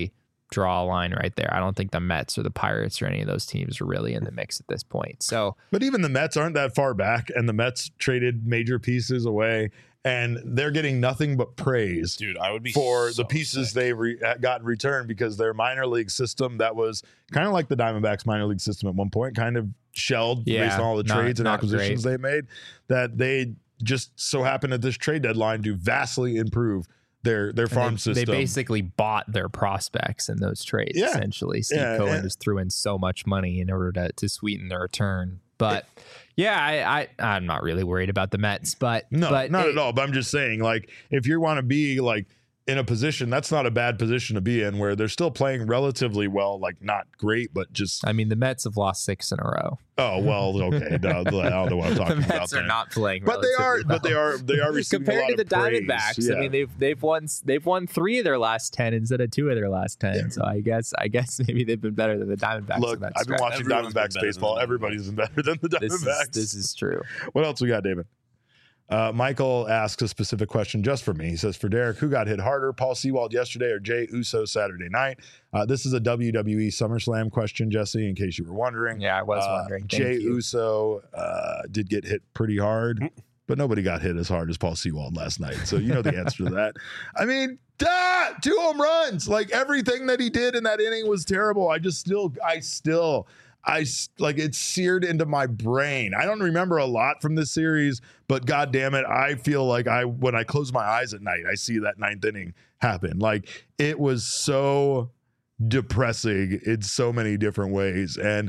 Speaker 3: draw a line right there. I don't think the Mets or the Pirates or any of those teams are really in the mix at this point. So,
Speaker 1: but even the Mets aren't that far back, and the Mets traded major pieces away, and they're getting nothing but praise,
Speaker 2: dude. I would be
Speaker 1: for
Speaker 2: so
Speaker 1: the pieces
Speaker 2: sick.
Speaker 1: they re- got in return, because their minor league system that was kind of like the Diamondbacks minor league system at one point, kind of shelled
Speaker 3: Yeah,
Speaker 1: based on all the
Speaker 3: not-
Speaker 1: trades and
Speaker 3: not
Speaker 1: acquisitions
Speaker 3: great.
Speaker 1: they made, that they just so happened at this trade deadline to vastly improve their their farm
Speaker 3: And they,
Speaker 1: system.
Speaker 3: they basically bought their prospects in those trades.
Speaker 1: Yeah.
Speaker 3: Essentially, Steve
Speaker 1: Yeah,
Speaker 3: Cohen
Speaker 1: and-
Speaker 3: just threw in so much money in order to to sweeten the return. But yeah, I, I I'm not really worried about the Mets. But
Speaker 1: No,
Speaker 3: but
Speaker 1: not
Speaker 3: it-
Speaker 1: at all. But I'm just saying, like, if you want to be like in a position, that's not a bad position to be in, where they're still playing relatively well, like not great, but just
Speaker 3: I mean, the Mets have lost six in a row.
Speaker 1: oh well, okay. No, I don't know what I'm
Speaker 3: The
Speaker 1: talking
Speaker 3: Mets
Speaker 1: about.
Speaker 3: are
Speaker 1: there.
Speaker 3: not playing,
Speaker 1: but they are,
Speaker 3: relatively
Speaker 1: but they
Speaker 3: well.
Speaker 1: are, they are receiving a
Speaker 3: compared
Speaker 1: lot
Speaker 3: to the
Speaker 1: of praise.
Speaker 3: Diamondbacks.
Speaker 1: Yeah.
Speaker 3: I mean, they've they've won they've won three of their last ten instead of two of their last ten.
Speaker 1: Yeah.
Speaker 3: So I guess I guess maybe they've been better than the Diamondbacks.
Speaker 1: Look,
Speaker 3: in that
Speaker 1: I've been
Speaker 3: stretch.
Speaker 1: watching
Speaker 2: Everyone's been
Speaker 1: Diamondbacks
Speaker 2: better
Speaker 1: baseball.
Speaker 2: than the
Speaker 1: Everybody's been better than the
Speaker 3: This is,
Speaker 1: Diamondbacks.
Speaker 3: this is true.
Speaker 1: What else we got, David? Uh, Michael asks a specific question just for me. He says, for Derek, who got hit harder, Paul Sewald yesterday or Jay Uso Saturday night? Uh, this is a W W E SummerSlam question, Jesse, in case you were wondering.
Speaker 3: Yeah, I was
Speaker 1: Uh,
Speaker 3: wondering. Thank
Speaker 1: Jay
Speaker 3: you.
Speaker 1: Uso uh, did get hit pretty hard, but nobody got hit as hard as Paul Sewald last night. So you know the answer to that. I mean, duh, two home runs. Like everything that he did in that inning was terrible. I just still, I still, I s- like it's seared into my brain. I don't remember a lot from this series, but God damn it, I feel like I when I close my eyes at night, I see that ninth inning happen. Like it was so depressing in so many different ways. And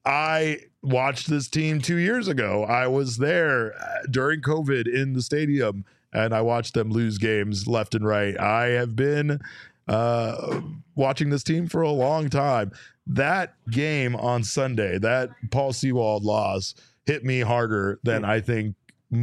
Speaker 1: I watched this team two years ago. I was there uh, during COVID in the stadium, and I watched them lose games left and right. I have been uh, watching this team for a long time. That game on Sunday, that Paul Sewald loss, hit me harder than I think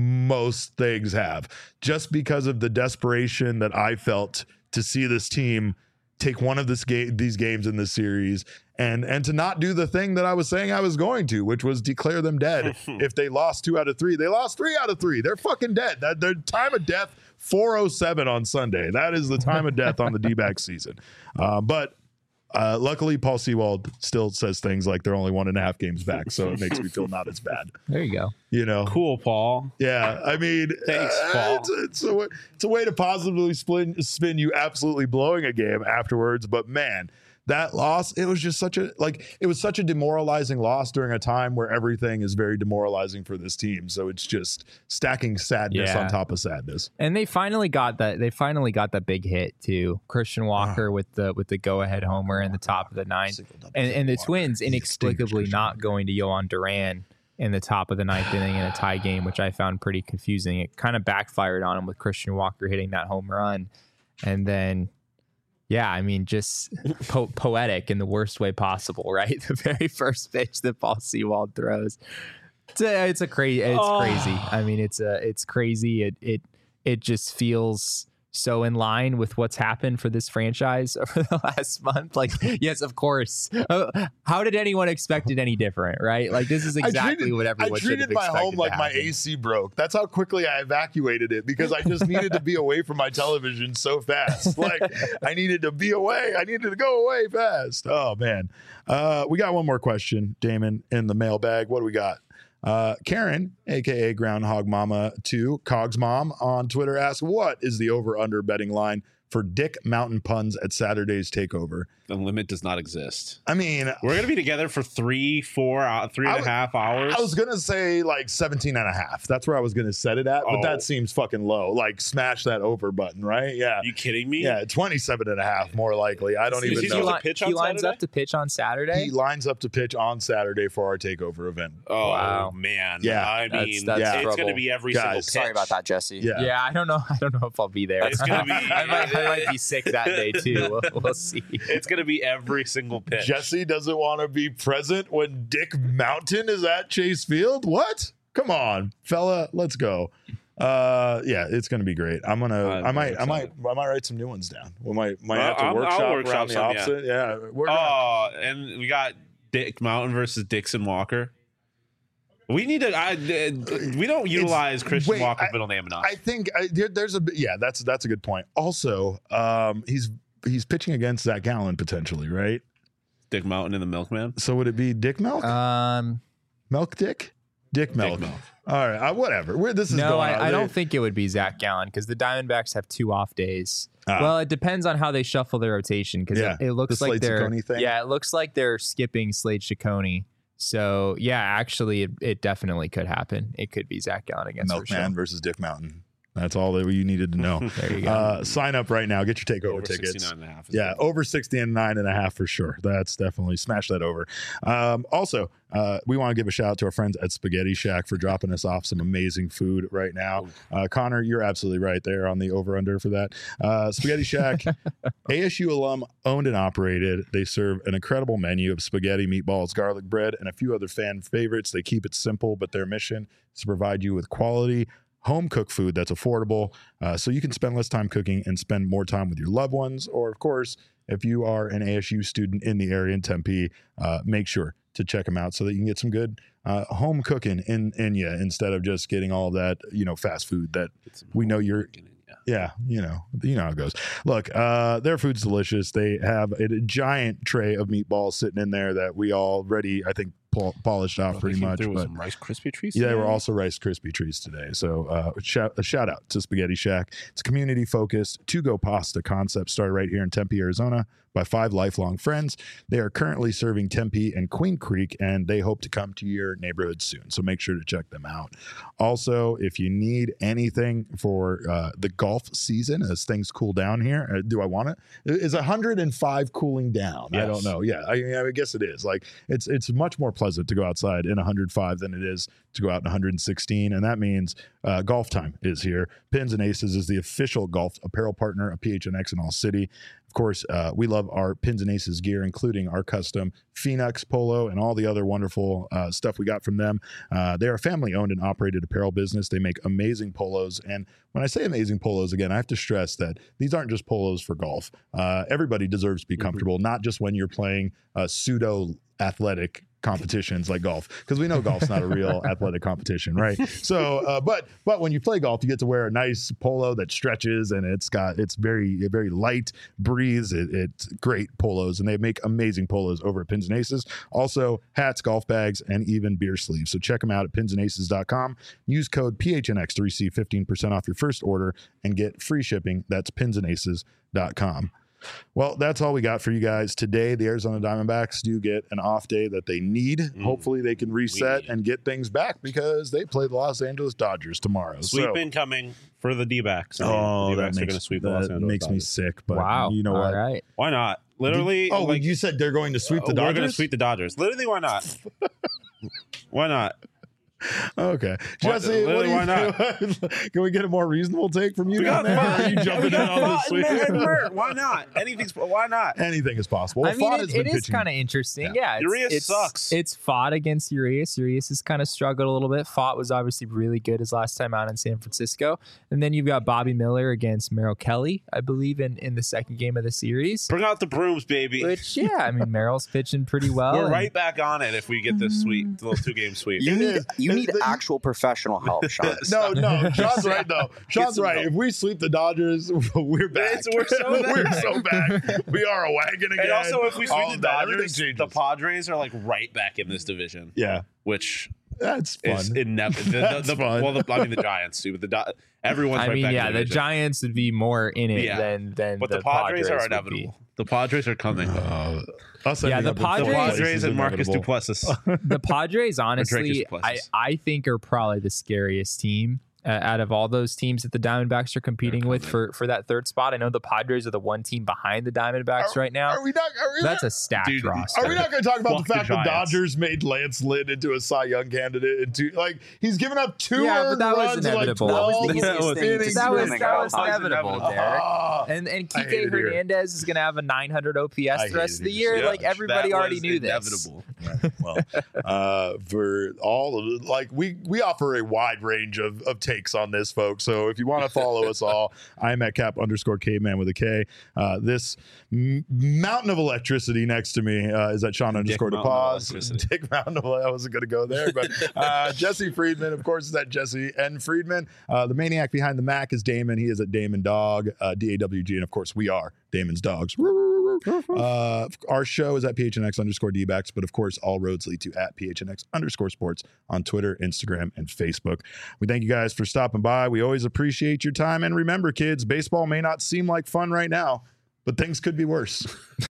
Speaker 1: most things have, just because of the desperation that I felt to see this team take one of this game, these games in this series, and and to not do the thing that I was saying I was going to, which was declare them dead. If they lost two out of three, they lost three out of three. They're fucking dead. That their time of death four oh seven on Sunday. That is the time of death on the D-backs season. Uh, but uh, luckily, Paul Sewald still says things like they're only one and a half games back, so it makes me feel not as bad.
Speaker 3: There you go.
Speaker 1: You know,
Speaker 2: Cool, Paul.
Speaker 1: yeah, I mean,
Speaker 2: Thanks,
Speaker 1: uh,
Speaker 2: Paul.
Speaker 1: It's, it's, a, way- it's a way to positively spin, spin you absolutely blowing a game afterwards. But man, that loss, it was just such a like it was such a demoralizing loss during a time where everything is very demoralizing for this team. So it's just stacking sadness
Speaker 3: Yeah.
Speaker 1: on top of sadness.
Speaker 3: And they finally got that. They finally got that big hit too. Christian Walker with the with the go ahead homer in the top of the ninth, and and the Twins inexplicably not going to Yohan Duran in the top of the ninth inning in a tie game, which I found pretty confusing. It kind of backfired on him with Christian Walker hitting that home run, and then. Yeah, I mean, just po- poetic in the worst way possible, right? The very first pitch that Paul Sewald throws. It's a, it's a crazy. It's
Speaker 2: Oh.
Speaker 3: crazy. I mean, it's a, it's crazy. It, it, it just feels so in line with what's happened for this franchise over the last month. Like, yes, of course. Uh, How did anyone expect it any different, right? Like, this is exactly
Speaker 1: I treated,
Speaker 3: what everyone
Speaker 1: I
Speaker 3: should have
Speaker 1: treated my
Speaker 3: expected
Speaker 1: home
Speaker 3: to
Speaker 1: like my
Speaker 3: happen.
Speaker 1: A C broke. That's how quickly I evacuated it because I just needed to be away from my television so fast. Like I needed to be away. I needed to go away fast. Oh man. Uh, we got one more question, Damon, in the mailbag. What do we got? Uh, Karen, aka Groundhog Mama two, Cogs Mom on Twitter asks, what is the over-under betting line for Dick Mountain puns at Saturday's Takeover?
Speaker 2: The limit does not exist.
Speaker 1: I mean,
Speaker 2: We're gonna be together for three, four, uh, three and
Speaker 1: I
Speaker 2: a
Speaker 1: w-
Speaker 2: half hours.
Speaker 1: I was going to say like seventeen and a half. That's where I was going to set it at, but
Speaker 2: Oh.
Speaker 1: that seems fucking low. Like smash that over button, right? Yeah.
Speaker 2: Are you kidding me?
Speaker 1: Yeah, twenty-seven and a half more likely. I don't
Speaker 2: Is
Speaker 1: even
Speaker 2: he
Speaker 1: know.
Speaker 2: supposed
Speaker 3: li-
Speaker 2: to pitch
Speaker 3: he
Speaker 2: on
Speaker 3: lines
Speaker 2: Saturday?
Speaker 3: up to pitch on Saturday.
Speaker 1: He lines up to pitch on Saturday for our takeover event.
Speaker 2: Oh
Speaker 3: Wow.
Speaker 2: man.
Speaker 1: Yeah.
Speaker 2: I
Speaker 3: That's-
Speaker 2: mean,
Speaker 3: that's
Speaker 2: it's
Speaker 3: trouble.
Speaker 2: gonna be every
Speaker 1: Guys,
Speaker 2: single pitch.
Speaker 4: Sorry about that, Jesse.
Speaker 1: Yeah.
Speaker 3: Yeah, I don't know. I don't know if I'll be there.
Speaker 2: It's gonna be-
Speaker 3: I, might, I might be sick that day too. We'll, we'll see.
Speaker 2: It's gonna be every single pitch.
Speaker 1: Jesse doesn't want to be present when Dick Mountain is at Chase Field. What? Come on, fella, let's go. Uh, yeah, it's gonna be great. I'm gonna.
Speaker 2: I'm
Speaker 1: I might.
Speaker 2: very
Speaker 1: I might.
Speaker 2: excited.
Speaker 1: I might write some new ones down. We might. Might
Speaker 2: Well,
Speaker 1: have to
Speaker 2: I'll- I'll
Speaker 1: workshop,
Speaker 2: workshop
Speaker 1: around the
Speaker 2: some, yeah.
Speaker 1: opposite. Yeah. We're gonna,
Speaker 2: Oh, and we got Dick Mountain versus Dixon Walker. We need to. I, uh, we don't utilize Christian
Speaker 1: wait,
Speaker 2: Walker's
Speaker 1: I-
Speaker 2: middle name enough.
Speaker 1: I think I, there, there's a bit- yeah. That's that's a good point. Also, um, he's he's pitching against Zach Gallen potentially, right?
Speaker 2: Dick Mountain and the Milkman.
Speaker 1: So would it be Dick Milk?
Speaker 3: Um,
Speaker 1: Milk Dick? Dick Milk.
Speaker 2: Dick Milk.
Speaker 1: All right, uh, whatever. Where this is
Speaker 3: no,
Speaker 1: going on.
Speaker 3: I, I
Speaker 1: They-
Speaker 3: don't think it would be Zach Gallen because the Diamondbacks have two off days.
Speaker 1: Ah.
Speaker 3: Well, it depends on how they shuffle their rotation because
Speaker 1: Yeah,
Speaker 3: it, it looks
Speaker 1: the
Speaker 3: like
Speaker 1: Slade
Speaker 3: they're
Speaker 1: Ciccone thing?
Speaker 3: yeah, it looks like they're skipping Slade Ciccone. So yeah, actually, it, it definitely could happen. It could be Zach Gallen against
Speaker 1: Milkman versus Dick Mountain. That's all that you needed to know.
Speaker 3: There you go.
Speaker 1: Uh, sign up right now. Get your takeover
Speaker 2: Over
Speaker 1: tickets.
Speaker 2: sixty-nine and a half is
Speaker 1: Yeah,
Speaker 2: good.
Speaker 1: over sixty-nine and a half for sure. That's definitely smash that over. Um, also, uh, we want to give a shout out to our friends at Spaghetti Shack for dropping us off some amazing food right now. Uh, Connor, you're absolutely right there on the over under for that. Uh, Spaghetti Shack, A S U alum owned and operated. They serve an incredible menu of spaghetti, meatballs, garlic bread, and a few other fan favorites. They keep it simple, but their mission is to provide you with quality home cooked food that's affordable, uh, so you can spend less time cooking and spend more time with your loved ones. Or, of course, if you are an A S U student in the area in Tempe, uh, make sure to check them out so that you can get some good uh, home cooking in in you instead of just getting all that you know fast food that
Speaker 2: Get some
Speaker 1: we know
Speaker 2: home
Speaker 1: you're.
Speaker 2: cooking in ya.
Speaker 1: Yeah, you know, you know how it goes. Look, uh, their food's delicious. They have a, a giant tray of meatballs sitting in there that we already, I think, pol- polished off
Speaker 2: Well, they
Speaker 1: pretty
Speaker 2: came
Speaker 1: much.
Speaker 2: through with
Speaker 1: But
Speaker 2: some Rice Krispie treats.
Speaker 1: yeah, they were
Speaker 2: today?
Speaker 1: also Rice Krispie treats today. So uh, shout, a shout out to Spaghetti Shack. It's community focused to-go pasta concept started right here in Tempe, Arizona by five lifelong friends. They are currently serving Tempe and Queen Creek, and they hope to come to your neighborhood soon. So make sure to check them out. Also, if you need anything for uh, the golf season as things cool down here, uh, do I want it? Is one hundred five cooling down? I don't
Speaker 2: Yes.
Speaker 1: know. Yeah, I, I guess it is. Like it's it's much more pleasant to go outside in one hundred five than it is to go out in one hundred sixteen, and that means uh, golf time is here. Pins and Aces is the official golf apparel partner of P H N X in All City. Of course, uh, we love our Pins and Aces gear, including our custom Phoenix polo and all the other wonderful uh, stuff we got from them. Uh, they're a family-owned and operated apparel business. They make amazing polos. And when I say amazing polos, again, I have to stress that these aren't just polos for golf. Uh, everybody deserves to be comfortable, not just when you're playing uh, pseudo-athletic competitions like golf, because we know golf's not a real athletic competition, right? So uh but but when you play golf, you get to wear a nice polo that stretches, and it's got it's very very light, breathes. It, it's great polos, and they make amazing polos over at Pins and Aces. Also hats, golf bags, and even beer sleeves. So check them out at pins and aces dot com. Use code P H N X to receive fifteen percent off your first order and get free shipping. That's pins and aces dot com. Well, that's all we got for you guys today. The Arizona Diamondbacks do get an off day that they need.
Speaker 2: Mm.
Speaker 1: Hopefully they can reset
Speaker 2: need.
Speaker 1: and get things back because they play the Los Angeles Dodgers tomorrow.
Speaker 2: Sweep
Speaker 1: so,
Speaker 2: incoming for the D-backs. I mean,
Speaker 1: oh,
Speaker 2: the
Speaker 1: that
Speaker 2: D-backs are going to
Speaker 1: makes,
Speaker 2: sweep the Los
Speaker 1: that
Speaker 2: Angeles
Speaker 1: makes me
Speaker 2: Dodgers.
Speaker 1: sick. But
Speaker 3: wow.
Speaker 1: you know
Speaker 3: All
Speaker 1: what?
Speaker 3: right.
Speaker 2: Why not? Literally,
Speaker 1: Oh,
Speaker 2: like,
Speaker 1: you said they're going to sweep the
Speaker 2: uh,
Speaker 1: Dodgers?
Speaker 2: We're going to sweep the Dodgers. Literally, why not? Why not?
Speaker 1: Okay.
Speaker 2: Why-
Speaker 1: Jesse, what do you
Speaker 2: why not?
Speaker 1: Can we get a more reasonable take from you?
Speaker 2: We got
Speaker 1: down there?
Speaker 2: Fott.
Speaker 1: Are you jumping
Speaker 2: We
Speaker 1: in
Speaker 2: got
Speaker 1: on this
Speaker 2: Fott
Speaker 1: sweep?
Speaker 2: and Mert. Why not? Anything's. Why not?
Speaker 1: Anything is possible. Well,
Speaker 3: I mean,
Speaker 1: Fott
Speaker 3: it,
Speaker 1: has been
Speaker 3: it is
Speaker 1: pitching-
Speaker 3: kind of interesting. Yeah, it's,
Speaker 2: Urias
Speaker 3: it's,
Speaker 2: sucks.
Speaker 3: It's fought against Urias. Urias has kind of struggled a little bit. Fought was obviously really good his last time out in San Francisco. And then you've got Bobby Miller against Merrill Kelly, I believe, in, in the second game of the series.
Speaker 2: Bring out the brooms, baby.
Speaker 3: Which, yeah, I mean, Merrill's pitching pretty well.
Speaker 2: We're
Speaker 3: and-
Speaker 2: right back on it if we get this sweep, the little two-game sweep.
Speaker 4: You
Speaker 1: It
Speaker 4: need
Speaker 1: is.
Speaker 4: you
Speaker 1: It-
Speaker 4: need
Speaker 1: the-
Speaker 4: actual professional help, Sean.
Speaker 1: No, no, Sean's right though. Sean's
Speaker 2: some
Speaker 1: right.
Speaker 2: help.
Speaker 1: If we sweep the Dodgers, we're back.
Speaker 2: It's- we're so
Speaker 1: we're
Speaker 2: back.
Speaker 1: so back. We are a wagon again.
Speaker 2: And also, if we
Speaker 1: All
Speaker 2: sweep
Speaker 1: of
Speaker 2: the
Speaker 1: that, everything
Speaker 2: Dodgers,
Speaker 1: changes.
Speaker 2: the Padres are like right back in this division,
Speaker 1: yeah,
Speaker 2: which
Speaker 1: that's fun.
Speaker 2: is inevitable. The,
Speaker 1: That's
Speaker 2: the, the,
Speaker 1: fun.
Speaker 2: well, the, I mean the Giants too, but the Do- everyone's
Speaker 3: I
Speaker 2: right
Speaker 3: mean,
Speaker 2: back
Speaker 3: yeah,
Speaker 2: in
Speaker 3: the
Speaker 2: the division.
Speaker 3: Giants would be more in it
Speaker 2: Yeah.
Speaker 3: than than
Speaker 2: But
Speaker 3: the,
Speaker 2: the Padres, are
Speaker 3: would be.
Speaker 2: inevitable. The Padres are coming.
Speaker 1: Uh, us
Speaker 3: Yeah,
Speaker 1: ending
Speaker 3: the
Speaker 1: up in fourth
Speaker 3: Padres-
Speaker 2: the
Speaker 1: place
Speaker 2: Padres
Speaker 1: is
Speaker 2: and Marcus
Speaker 1: inevitable.
Speaker 2: Duplessis.
Speaker 3: The Padres,
Speaker 2: Drake
Speaker 3: honestly,
Speaker 2: is
Speaker 3: I,
Speaker 2: Duplessis.
Speaker 3: I think are probably the scariest team uh, out of all those teams that the Diamondbacks are competing with for, for that third spot. I know the Padres are the one team behind the Diamondbacks right now.
Speaker 1: Are we not? Are we
Speaker 3: That's
Speaker 1: not,
Speaker 3: a stacked
Speaker 2: Dude,
Speaker 3: roster.
Speaker 1: Are we not going to talk about
Speaker 2: Fuck
Speaker 1: the
Speaker 2: the
Speaker 1: fact that
Speaker 2: Giants.
Speaker 1: Dodgers made Lance Lynn into a Cy Young candidate? Into like he's given up two
Speaker 3: Yeah, but
Speaker 1: earned
Speaker 3: that was
Speaker 1: runs in like
Speaker 3: inevitable.
Speaker 1: twelve
Speaker 3: That was the
Speaker 4: easiest
Speaker 1: innings.
Speaker 4: thing to
Speaker 1: innings.
Speaker 3: that was,
Speaker 4: That
Speaker 3: that was
Speaker 4: was
Speaker 3: inevitable,
Speaker 2: inevitable.
Speaker 3: Derek.
Speaker 1: Ah.
Speaker 3: And and
Speaker 1: I hate
Speaker 3: Kike
Speaker 1: it here.
Speaker 3: Hernandez is going to have a nine hundred O P S
Speaker 1: I
Speaker 3: the rest
Speaker 1: hate
Speaker 3: of the
Speaker 1: it.
Speaker 3: year.
Speaker 2: Yeah,
Speaker 3: like everybody
Speaker 2: that
Speaker 3: already
Speaker 2: was
Speaker 3: knew this.
Speaker 2: inevitable.
Speaker 1: Right. Well, uh, for all of like we we offer a wide range of, of takes on this, folks. So if you want to follow us all, I'm at cap underscore caveman with a K. Uh, this m- mountain of electricity next to me uh, is at Sean underscore
Speaker 2: Mountain of
Speaker 1: DePause.
Speaker 2: electricity.
Speaker 1: Dick Mountain of I wasn't going to go there, but uh, Jesse Friedman, of course, is at Jesse N Friedman. Uh, the maniac behind the Mac is Damon. He is at Damon Dog, uh, D A W G, and of course we are Damon's Dogs. Uh, our show is at P H N X underscore D-backs, but of course, all roads lead to at P H N X underscore sports on Twitter, Instagram, and Facebook. We thank you guys for stopping by. We always appreciate your time. And remember, kids, baseball may not seem like fun right now, but things could be worse.